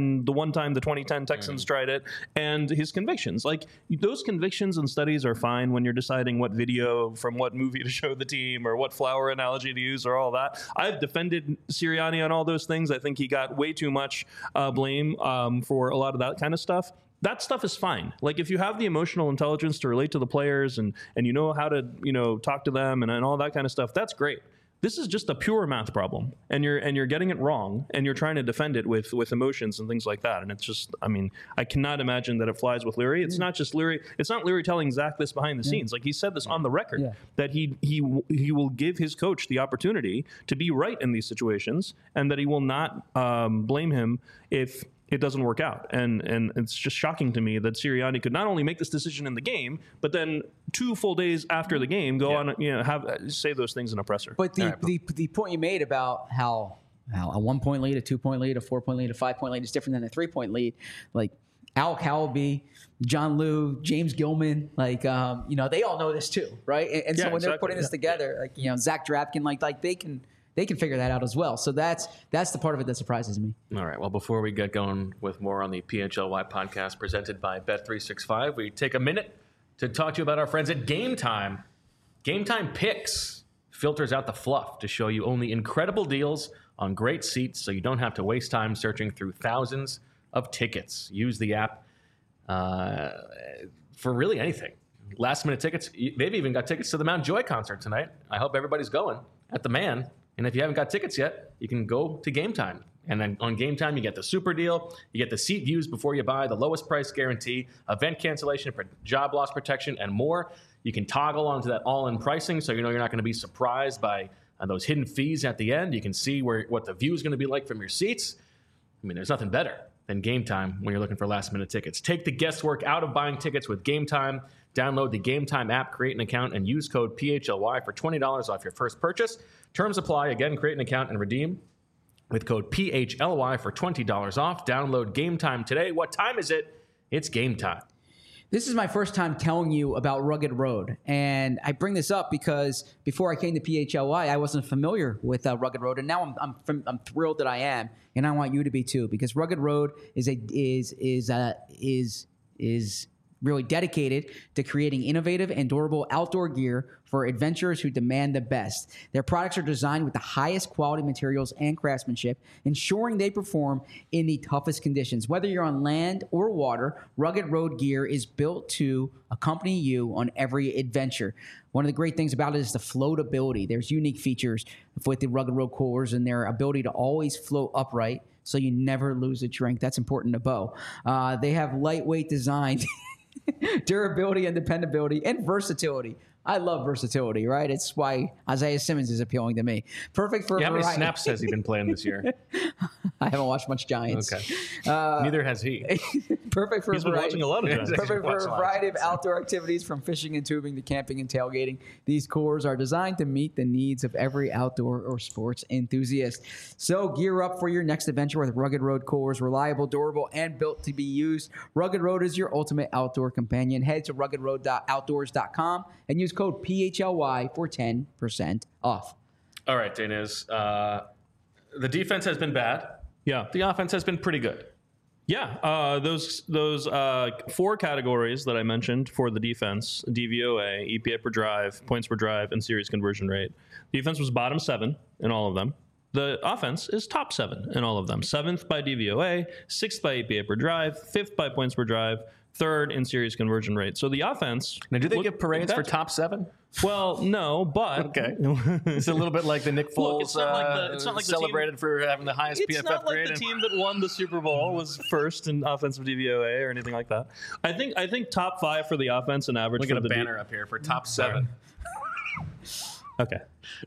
2010 Texans tried it, and his convictions. Like, those convictions and studies are fine when you're deciding what video from what movie to show the team or what flower analogy to use or all that. I've defended Sirianni on all those things. I think he got way too much blame for a lot of that kind of stuff. That stuff is fine. Like, if you have the emotional intelligence to relate to the players and you know how to, talk to them and all that kind of stuff, that's great. This is just a pure math problem, and you're getting it wrong, and you're trying to defend it with emotions and things like that. And it's just, I cannot imagine that it flies with Lurie. It's not just Lurie. It's not Lurie telling Zach this behind the scenes. Like, he said this on the record that he will give his coach the opportunity to be right in these situations, and that he will not blame him if it doesn't work out. And it's just shocking to me that Sirianni could not only make this decision in the game, but then 2 full days after the game go on, say those things in a presser. But the point you made about how a 1-point lead, a 2-point lead, a 4-point lead, a 5-point lead is different than a 3-point lead. Like, Alec Howell, John Liu, James Gilman, like, they all know this too, right? And so when they're putting this together, like, Zach Drapkin, like they can figure that out as well. So that's the part of it that surprises me. All right. Well, before we get going with more on the PHLY podcast presented by Bet365, we take a minute to talk to you about our friends at Game Time. Game Time Picks filters out the fluff to show you only incredible deals on great seats, so you don't have to waste time searching through thousands of tickets. Use the app for really anything. Last-minute tickets. They've even got tickets to the Mount Joy concert tonight. I hope everybody's going at the Man. And if you haven't got tickets yet, you can go to Game Time. And then on Game Time, you get the super deal. You get the seat views before you buy, the lowest price guarantee, event cancellation, job loss protection, and more. You can toggle onto that all-in pricing, so you know you're not going to be surprised by those hidden fees at the end. You can see what the view is going to be like from your seats. I mean, there's nothing better than Game Time when you're looking for last-minute tickets. Take the guesswork out of buying tickets with Game Time. Download the Game Time app, create an account, and use code PHLY for $20 off your first purchase. Terms apply. Again, create an account and redeem with code PHLY for $20 off. Download Game Time today. What time is it? It's game time. This is my first time telling you about Rugged Road. And I bring this up because before I came to PHLY, I wasn't familiar with Rugged Road. And now I'm thrilled that I am. And I want you to be too, because Rugged Road is really dedicated to creating innovative and durable outdoor gear for adventurers who demand the best. Their products are designed with the highest quality materials and craftsmanship, ensuring they perform in the toughest conditions. Whether you're on land or water, Rugged Road gear is built to accompany you on every adventure. One of the great things about it is the floatability. There's unique features with the Rugged Road coolers and their ability to always float upright so you never lose a drink. That's important to Bo. They have lightweight design, durability and dependability, and versatility. I love versatility, right? It's why Isaiah Simmons is appealing to me. Perfect for how many snaps has he been playing this year? I haven't watched much Giants. Okay. Neither has he. Perfect for He's been watching a lot of Giants. Perfect for a variety of outdoor activities, from fishing and tubing to camping and tailgating. These coolers are designed to meet the needs of every outdoor or sports enthusiast. So gear up for your next adventure with Rugged Road coolers. Reliable, durable, and built to be used. Rugged Road is your ultimate outdoor companion. Head to ruggedroadoutdoors.com and use code PHLY for 10% off. All right, Daniz. The defense has been bad. Yeah. The offense has been pretty good. Yeah, those 4 categories that I mentioned for the defense: DVOA, EPA per drive, points per drive, and series conversion rate. Defense was bottom 7 in all of them. The offense is top 7 in all of them. 7th by DVOA, 6th by EPA per drive, 5th by points per drive, 3rd in series conversion rate. So the offense. Now, do they give parades for top 7? Well, no, but okay, it's a little bit like the Nick Foles. Look, it's not like celebrated for having the highest PFF grade. It's not like the team that won the Super Bowl was first in offensive DVOA or anything like that. I think top 5 for the offense and average. Look at a banner up here for top 7. Okay.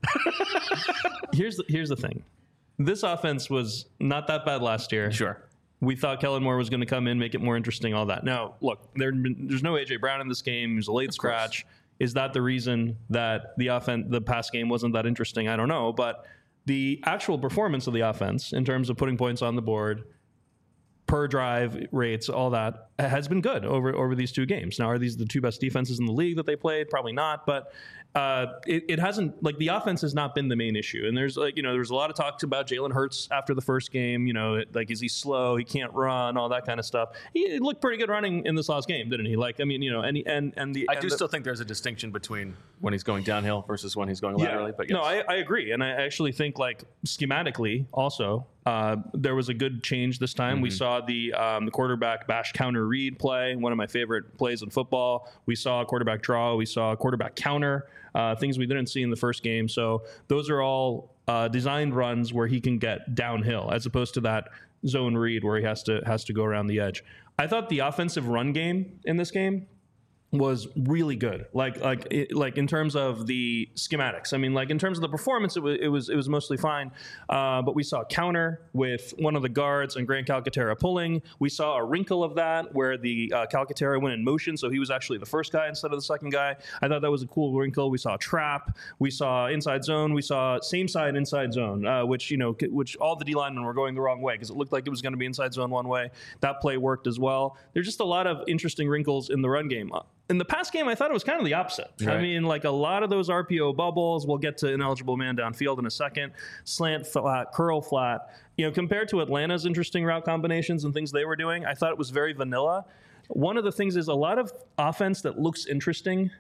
Here's the thing. This offense was not that bad last year. Sure. We thought Kellen Moore was going to come in, make it more interesting, all that. Now, look, there's no A.J. Brown in this game. He was a late scratch. Is that the reason that the pass game wasn't that interesting? I don't know. But the actual performance of the offense in terms of putting points on the board, per drive rates, all that, has been good over these 2 games. Now, are these the 2 best defenses in the league that they played? Probably not. But it hasn't, like, the offense has not been the main issue. And there's there's a lot of talks about Jalen Hurts after the first game. Like, is he slow? He can't run, all that kind of stuff. He looked pretty good running in this last game, didn't he? Like, I mean, I still think there's a distinction between when he's going downhill versus when he's going laterally. But yes. No, I agree. And I actually think, like, schematically also, there was a good change this time. Mm-hmm. We saw the quarterback bash counter read play, one of my favorite plays in football. We saw a quarterback draw. We saw a quarterback counter, things we didn't see in the first game. So those are all designed runs where he can get downhill, as opposed to that zone read where he has to go around the edge. I thought the offensive run game in this game was really good. Like in terms of the schematics. I mean, like, in terms of the performance, it was mostly fine. But we saw a counter with one of the guards and Grant Calcaterra pulling. We saw a wrinkle of that where the Calcaterra went in motion, so he was actually the first guy instead of the second guy. I thought that was a cool wrinkle. We saw a trap. We saw inside zone. We saw same side inside zone, which all the D linemen were going the wrong way because it looked like it was going to be inside zone one way. That play worked as well. There's just a lot of interesting wrinkles in the run game. In the past game, I thought it was kind of the opposite. Right. I mean, like, a lot of those RPO bubbles, we'll get to ineligible man downfield in a second, slant flat, curl flat. Compared to Atlanta's interesting route combinations and things they were doing, I thought it was very vanilla. One of the things is a lot of offense that looks interesting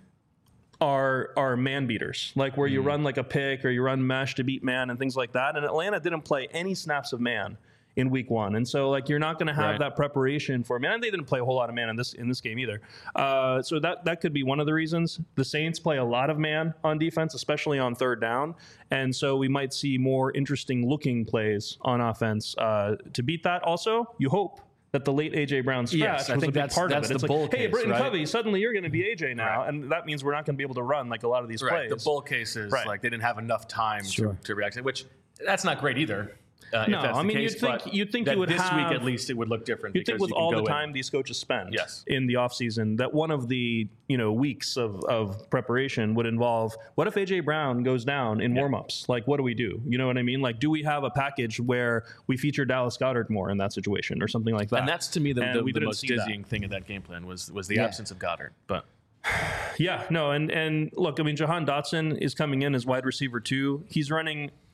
are man beaters, like where you run like a pick or you run mesh to beat man and things like that. And Atlanta didn't play any snaps of man in week 1. And so, like, you're not going to have that preparation for man. And they didn't play a whole lot of man in this game either. So that could be one of the reasons. The Saints play a lot of man on defense, especially on 3rd down. And so we might see more interesting looking plays on offense to beat that. Also, you hope that the late A.J. Brown scratch was a big part of it. It's like, hey, Britton Covey, suddenly you're going to be A.J. now, and that means we're not going to be able to run like a lot of these plays. The bull case is like they didn't have enough time to react, which that's not great either. No, I mean, you'd think you would this have, week at least it would look different. You'd think with all the time these coaches spend in the offseason that one of the weeks of preparation would involve, what if A.J. Brown goes down in warmups? Like, what do we do? You know what I mean? Like, do we have a package where we feature Dallas Goedert more in that situation or something like that? And that's, to me, the most dizzying thing in that game plan was the absence of Goedert. But yeah, no, and look, I mean, Jahan Dotson is coming in as wide receiver 2. He's running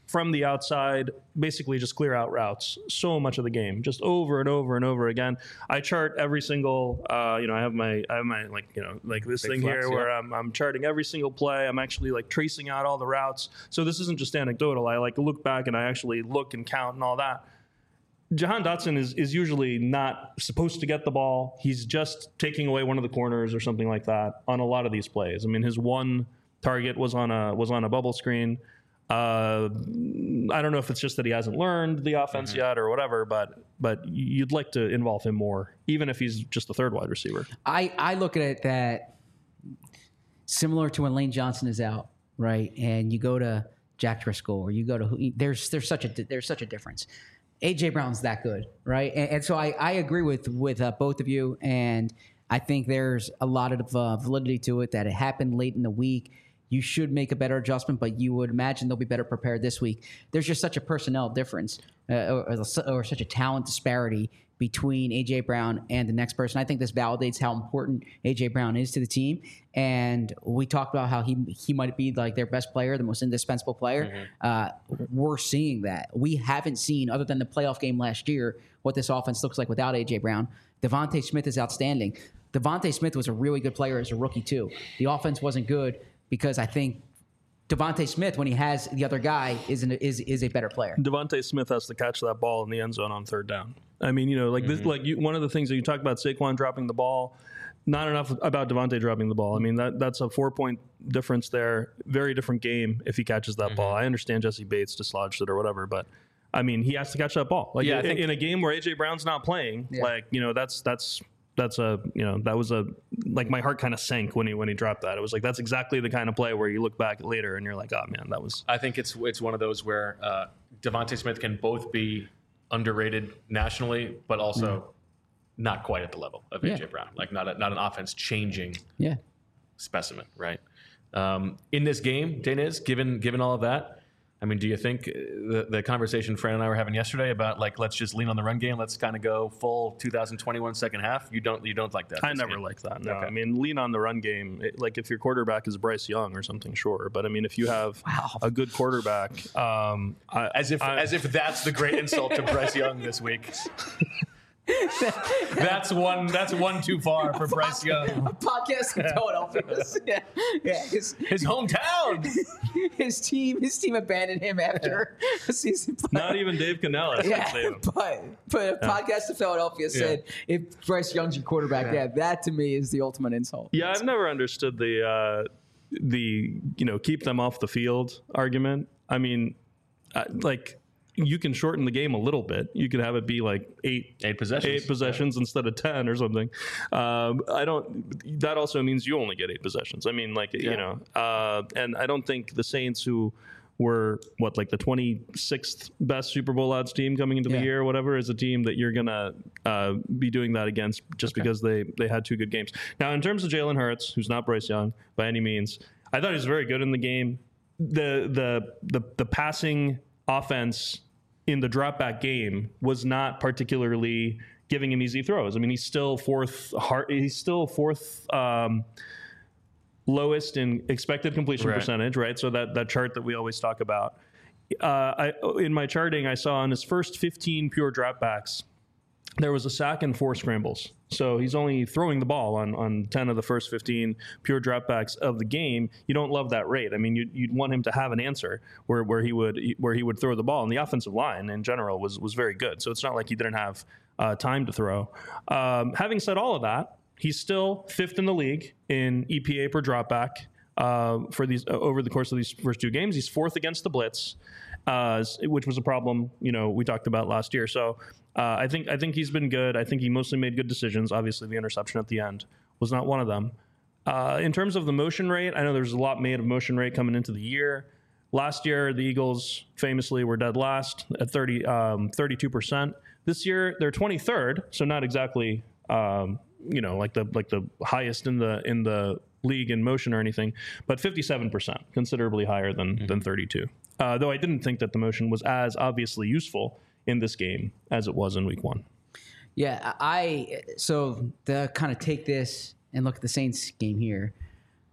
from the outside, basically just clear out routes so much of the game, just over and over and over again. I chart every single, I have my like this thing here where I'm charting every single play. I'm actually like tracing out all the routes. So this isn't just anecdotal. I like look back and I actually look and count and all that. Jahan Dotson is usually not supposed to get the ball. He's just taking away one of the corners or something like that on a lot of these plays. I mean, his one target was on a bubble screen. I don't know if it's just that he hasn't learned the offense yet or whatever, but you'd like to involve him more, even if he's just the third wide receiver. I look at it that similar to when Lane Johnson is out, right? And you go to Jack Driscoll or you go to there's such a difference. A.J. Brown's that good, right? And so I agree with both of you, and I think there's a lot of validity to it that it happened late in the week. You should make a better adjustment, but you would imagine they'll be better prepared this week. There's just such a personnel difference or such a talent disparity between A.J. Brown and the next person. I think this validates how important A.J. Brown is to the team. And we talked about how he might be like their best player, the most indispensable player. We're seeing that. We haven't seen, other than the playoff game last year, what this offense looks like without A.J. Brown. Devontae Smith is outstanding. Devontae Smith was a really good player as a rookie, too. The offense wasn't good because I think Devontae Smith, when he has the other guy, is a better player. Devontae Smith has to catch that ball in the end zone on third down. I mean, this, one of the things that you talk about Saquon dropping the ball, not enough about Devontae dropping the ball. I mean, that's a 4-point difference there. Very different game if he catches that ball. I understand Jesse Bates dislodged it or whatever, but I mean, he has to catch that ball. Like in a game where A.J. Brown's not playing, that was my heart kind of sank when he dropped that. It was like, that's exactly the kind of play where you look back later and you're like, oh man, that was. I think it's one of those where Devontae Smith can both be underrated nationally, but also not quite at the level of A.J. Brown. Like not an offense changing specimen, right? In this game, Daniz, given all of that, I mean, do you think the conversation Fran and I were having yesterday about like, let's just lean on the run game, let's kind of go full 2021 second half? You don't like that? I never like that. No, okay. I mean, lean on the run game. Like if your quarterback is Bryce Young or something, sure. But I mean, if you have a good quarterback, as if that's the great insult to Bryce Young this week. That's one too far for Bryce Young. A podcast in Philadelphia. His hometown. His team abandoned him after a season play. Not even Dave Canella. But a podcast in Philadelphia said if Bryce Young's your quarterback, that to me is the ultimate insult. Yeah, I've never understood the keep them off the field argument. I mean, you can shorten the game a little bit. You could have it be like eight possessions instead of 10 or something. That also means you only get 8 possessions. I mean, and I don't think the Saints, who were the 26th best Super Bowl odds team coming into the year or whatever, is a team that you're gonna be doing that against just because they had 2 good games. Now, in terms of Jalen Hurts, who's not Bryce Young by any means, I thought he was very good in the game. The passing offense in the drop back game was not particularly giving him easy throws. I mean, he's still fourth lowest in expected completion percentage, right? So that chart that we always talk about. In my charting, I saw on his first 15 pure dropbacks, there was a sack and 4 scrambles. So he's only throwing the ball on 10 of the first 15 pure dropbacks of the game. You don't love that rate. I mean, you'd want him to have an answer where he would throw the ball. And the offensive line in general was very good. So it's not like he didn't have time to throw. Having said all of that, he's still 5th in the league in EPA per dropback for these over the course of these first 2 games. He's 4th against the blitz, which was a problem we talked about last year. So I think he's been good. I think he mostly made good decisions. Obviously, the interception at the end was not one of them. In terms of the motion rate, I know there's a lot made of motion rate coming into the year. Last year, the Eagles famously were dead last at 32%. This year, they're 23rd, so not exactly like the highest in the league in motion or anything, but 57%, considerably higher than 32. Though I didn't think that the motion was as obviously useful in this game as it was in week 1. Yeah, so to kind of take this and look at the Saints game here,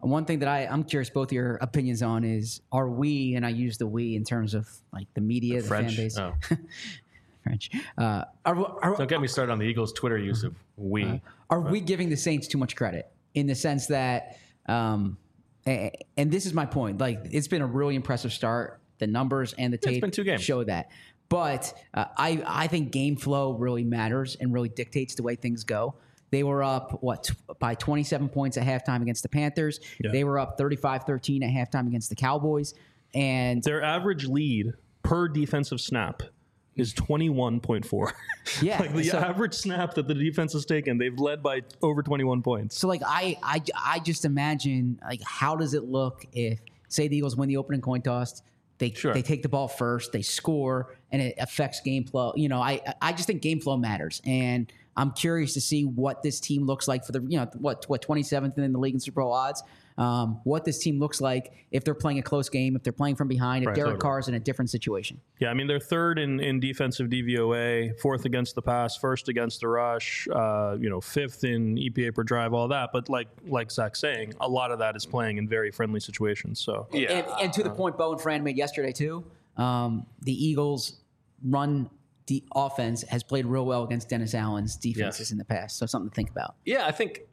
One thing that I'm curious both your opinions on is, are we, and I use the we in terms of like the media, the fan base. Oh. French. Don't get me started on the Eagles' Twitter use of we. Are we giving the Saints too much credit in the sense that, and this is my point, like it's been a really impressive start. The numbers and the tape it's been 2 games. Show that. But I think game flow really matters and really dictates the way things go. They were up, by 27 points at halftime against the Panthers. Yeah. They were up 35-13 at halftime against the Cowboys. And their average lead per defensive snap is 21.4. Yeah. Like the average snap that the defense has taken, they've led by over 21 points. So, like, I just imagine, like, how does it look if, say, the Eagles win the opening coin toss, they take the ball first, they score, and it affects game flow. You know, I just think game flow matters. And I'm curious to see what this team looks like for the, 27th in the league in Super Bowl odds. What this team looks like if they're playing a close game, if they're playing from behind, if Derek Carr's in a different situation. Yeah, I mean, they're third in defensive DVOA, fourth against the pass, first against the rush, fifth in EPA per drive, all that. But like Zach's saying, a lot of that is playing in very friendly situations. So yeah. And to the point Bo and Fran made yesterday too, the Eagles run the offense has played real well against Dennis Allen's defenses in the past. So something to think about. Yeah, I think,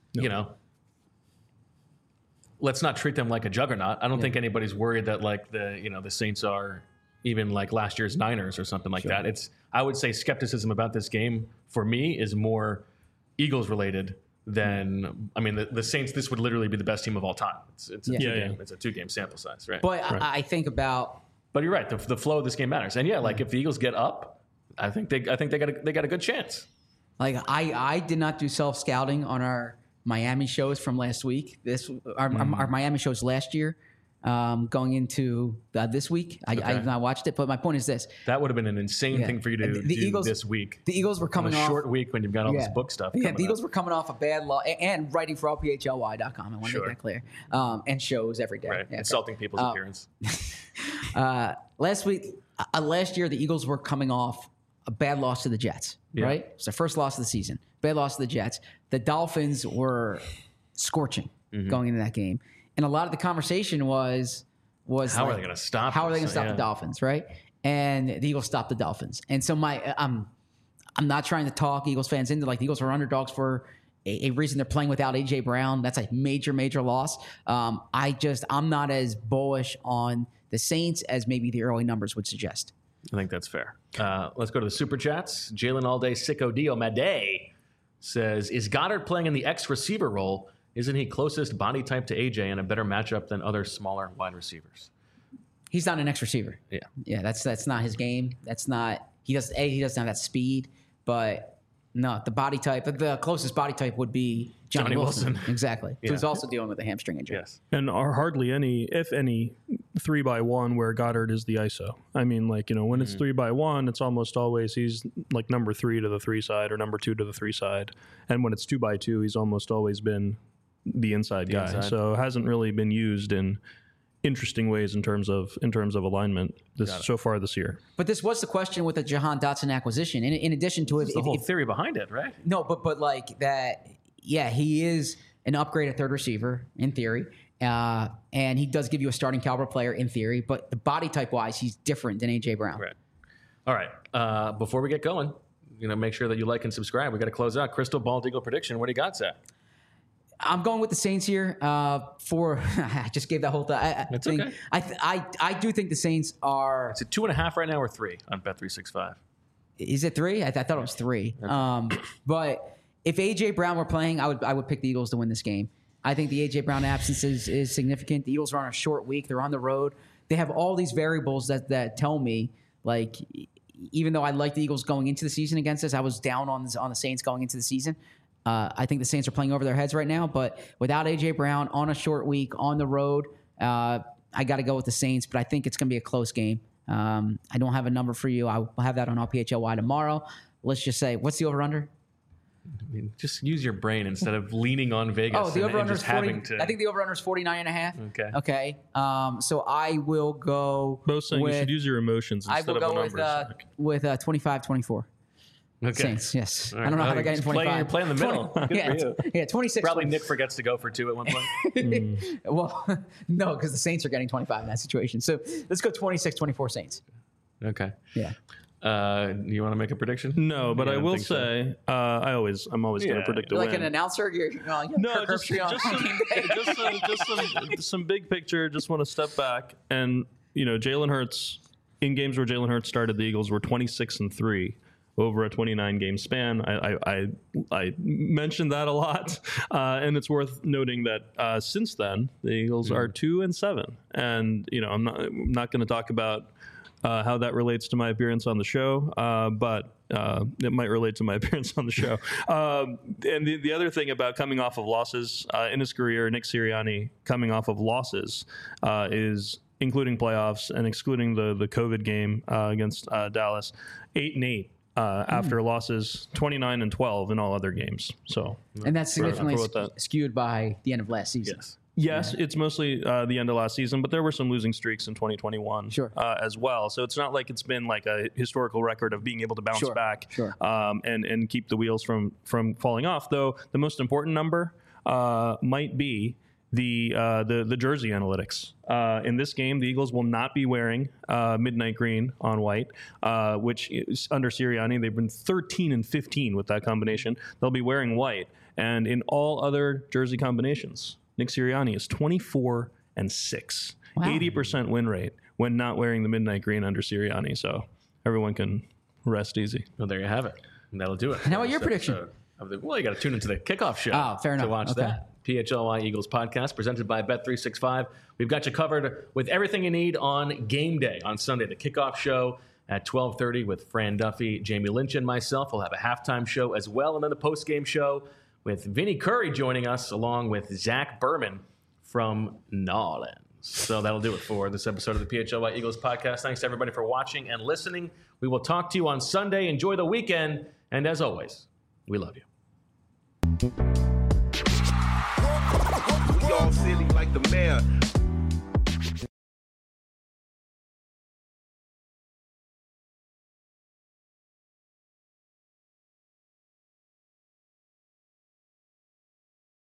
let's not treat them like a juggernaut. I don't think anybody's worried that like the Saints are even like last year's Niners or something like that. I would say skepticism about this game for me is more Eagles related than, I mean, the Saints, this would literally be the best team of all time. It's a 2-game sample size, right? But right. I think about, but you're right. The flow of this game matters. And like if the Eagles get up, I think they got a good chance. Like I did not do self-scouting on our Miami shows from last week. Our Miami shows last year, going into this week. I have not watched it, but my point is this: that would have been an insane thing for you to do this week. The Eagles were coming off a short week when you've got all this book stuff. Yeah, the Eagles were coming off a bad loss and writing for LPHLY.com. I want to make that clear. And shows every day. Right. Insulting people's appearance. Last year, the Eagles were coming off a bad loss to the Jets, right? It's their first loss of the season. Bad loss to the Jets. The Dolphins were scorching going into that game. And a lot of the conversation was how are they going to stop the Dolphins, right? And the Eagles stopped the Dolphins. And so I'm not trying to talk Eagles fans into like the Eagles were underdogs for a reason. They're playing without A.J. Brown. That's a major, major loss. I'm not as bullish on the Saints as maybe the early numbers would suggest. I think that's fair. Let's go to the Super Chats. Jalen All Day Sicko Dio Made says, is Goddard playing in the X receiver role? Isn't he closest body type to AJ and a better matchup than other smaller wide receivers? He's not an X receiver. Yeah, that's not his game. He doesn't have that speed, but no, the body type, the closest body type would be Johnny Wilson. Exactly. Yeah. Who's also dealing with a hamstring injury. Yes. And are hardly any, if any, 3-by-1 where Goddard is the ISO. I mean, when it's 3-by-1, it's almost always he's like number 3 to the 3 side or number 2 to the 3 side. And when it's 2-by-2, he's almost always been the inside guy. So it hasn't really been used in interesting ways in terms of alignment so far this year. But this was the question with the Jahan Dotson acquisition. In addition to the whole theory behind it, right? No, but like that, he is an upgrade at third receiver in theory, and he does give you a starting caliber player in theory. But the body type wise, he's different than AJ Brown. Right. All right. Before we get going, make sure that you like and subscribe. We got to close out. Crystal Ball Eagle prediction. What do you got, Zach? I'm going with the Saints here. I just gave that whole thing. That's okay. I do think the Saints are. Is it 2.5 right now or 3 on Bet365? Is it 3? I thought it was 3. But if AJ Brown were playing, I would pick the Eagles to win this game. I think the AJ Brown absence is significant. The Eagles are on a short week. They're on the road. They have all these variables that tell me, like, even though I like the Eagles going into the season against us, I was down on the Saints going into the season. I think the Saints are playing over their heads right now, but without A.J. Brown on a short week, on the road, I got to go with the Saints, but I think it's going to be a close game. I don't have a number for you. I'll have that on LPHLY tomorrow. Let's just say, what's the over-under? I mean, just use your brain instead of leaning on Vegas. Oh, the over-under is 40. I think the over-under is 49.5. Okay. So I will go Both saying you should use your emotions instead of the numbers. I will go with 25-24. Saints, yes. Right. I don't know how they're getting 25. You're playing the middle. Yeah, 26. Probably Nick forgets to go for 2 at one point. Well, no, because the Saints are getting 25 in that situation. So let's go 26-24 Saints. Okay. Yeah. You want to make a prediction? No, but I will say, I'm always going to predict a win. Like an announcer? No, just some big picture. Just want to step back. And, Jalen Hurts, in games where Jalen Hurts started, the Eagles were 26-3 over a 29-game span. I mentioned that a lot. And it's worth noting that since then, the Eagles are 2-7. And, I'm not going to talk about how that relates to my appearance on the show, but it might relate to my appearance on the show. And the other thing about coming off of losses in his career, Nick Sirianni coming off of losses is, including playoffs and excluding the COVID game against Dallas, 8-8 after losses, 29-12 in all other games. So, and that's significantly skewed by the end of last season. Yes, it's mostly the end of last season, but there were some losing streaks in 2021 as well. So it's not like it's been like a historical record of being able to bounce back and keep the wheels from falling off. Though the most important number might be the jersey analytics. In this game, the Eagles will not be wearing midnight green on white, which is under Sirianni. They've been 13-15 with that combination. They'll be wearing white. And in all other jersey combinations, Nick Sirianni is 24-6, 80% win rate when not wearing the midnight green under Sirianni. So everyone can rest easy. Well, there you have it. And that'll do it. And how about your prediction? Well, you got to tune into the kickoff show. Oh, fair enough. To watch that. PHLY Eagles podcast presented by Bet365. We've got you covered with everything you need on game day on Sunday. The kickoff show at 12:30 with Fran Duffy, Jamie Lynch, and myself. We'll have a halftime show as well, and then the post-game show with Vinny Curry joining us, along with Zach Berman from Nolens. So that'll do it for this episode of the PHLY Eagles podcast. Thanks to everybody for watching and listening. We will talk to you on Sunday. Enjoy the weekend. And as always, we love you. We all silly like the mayor.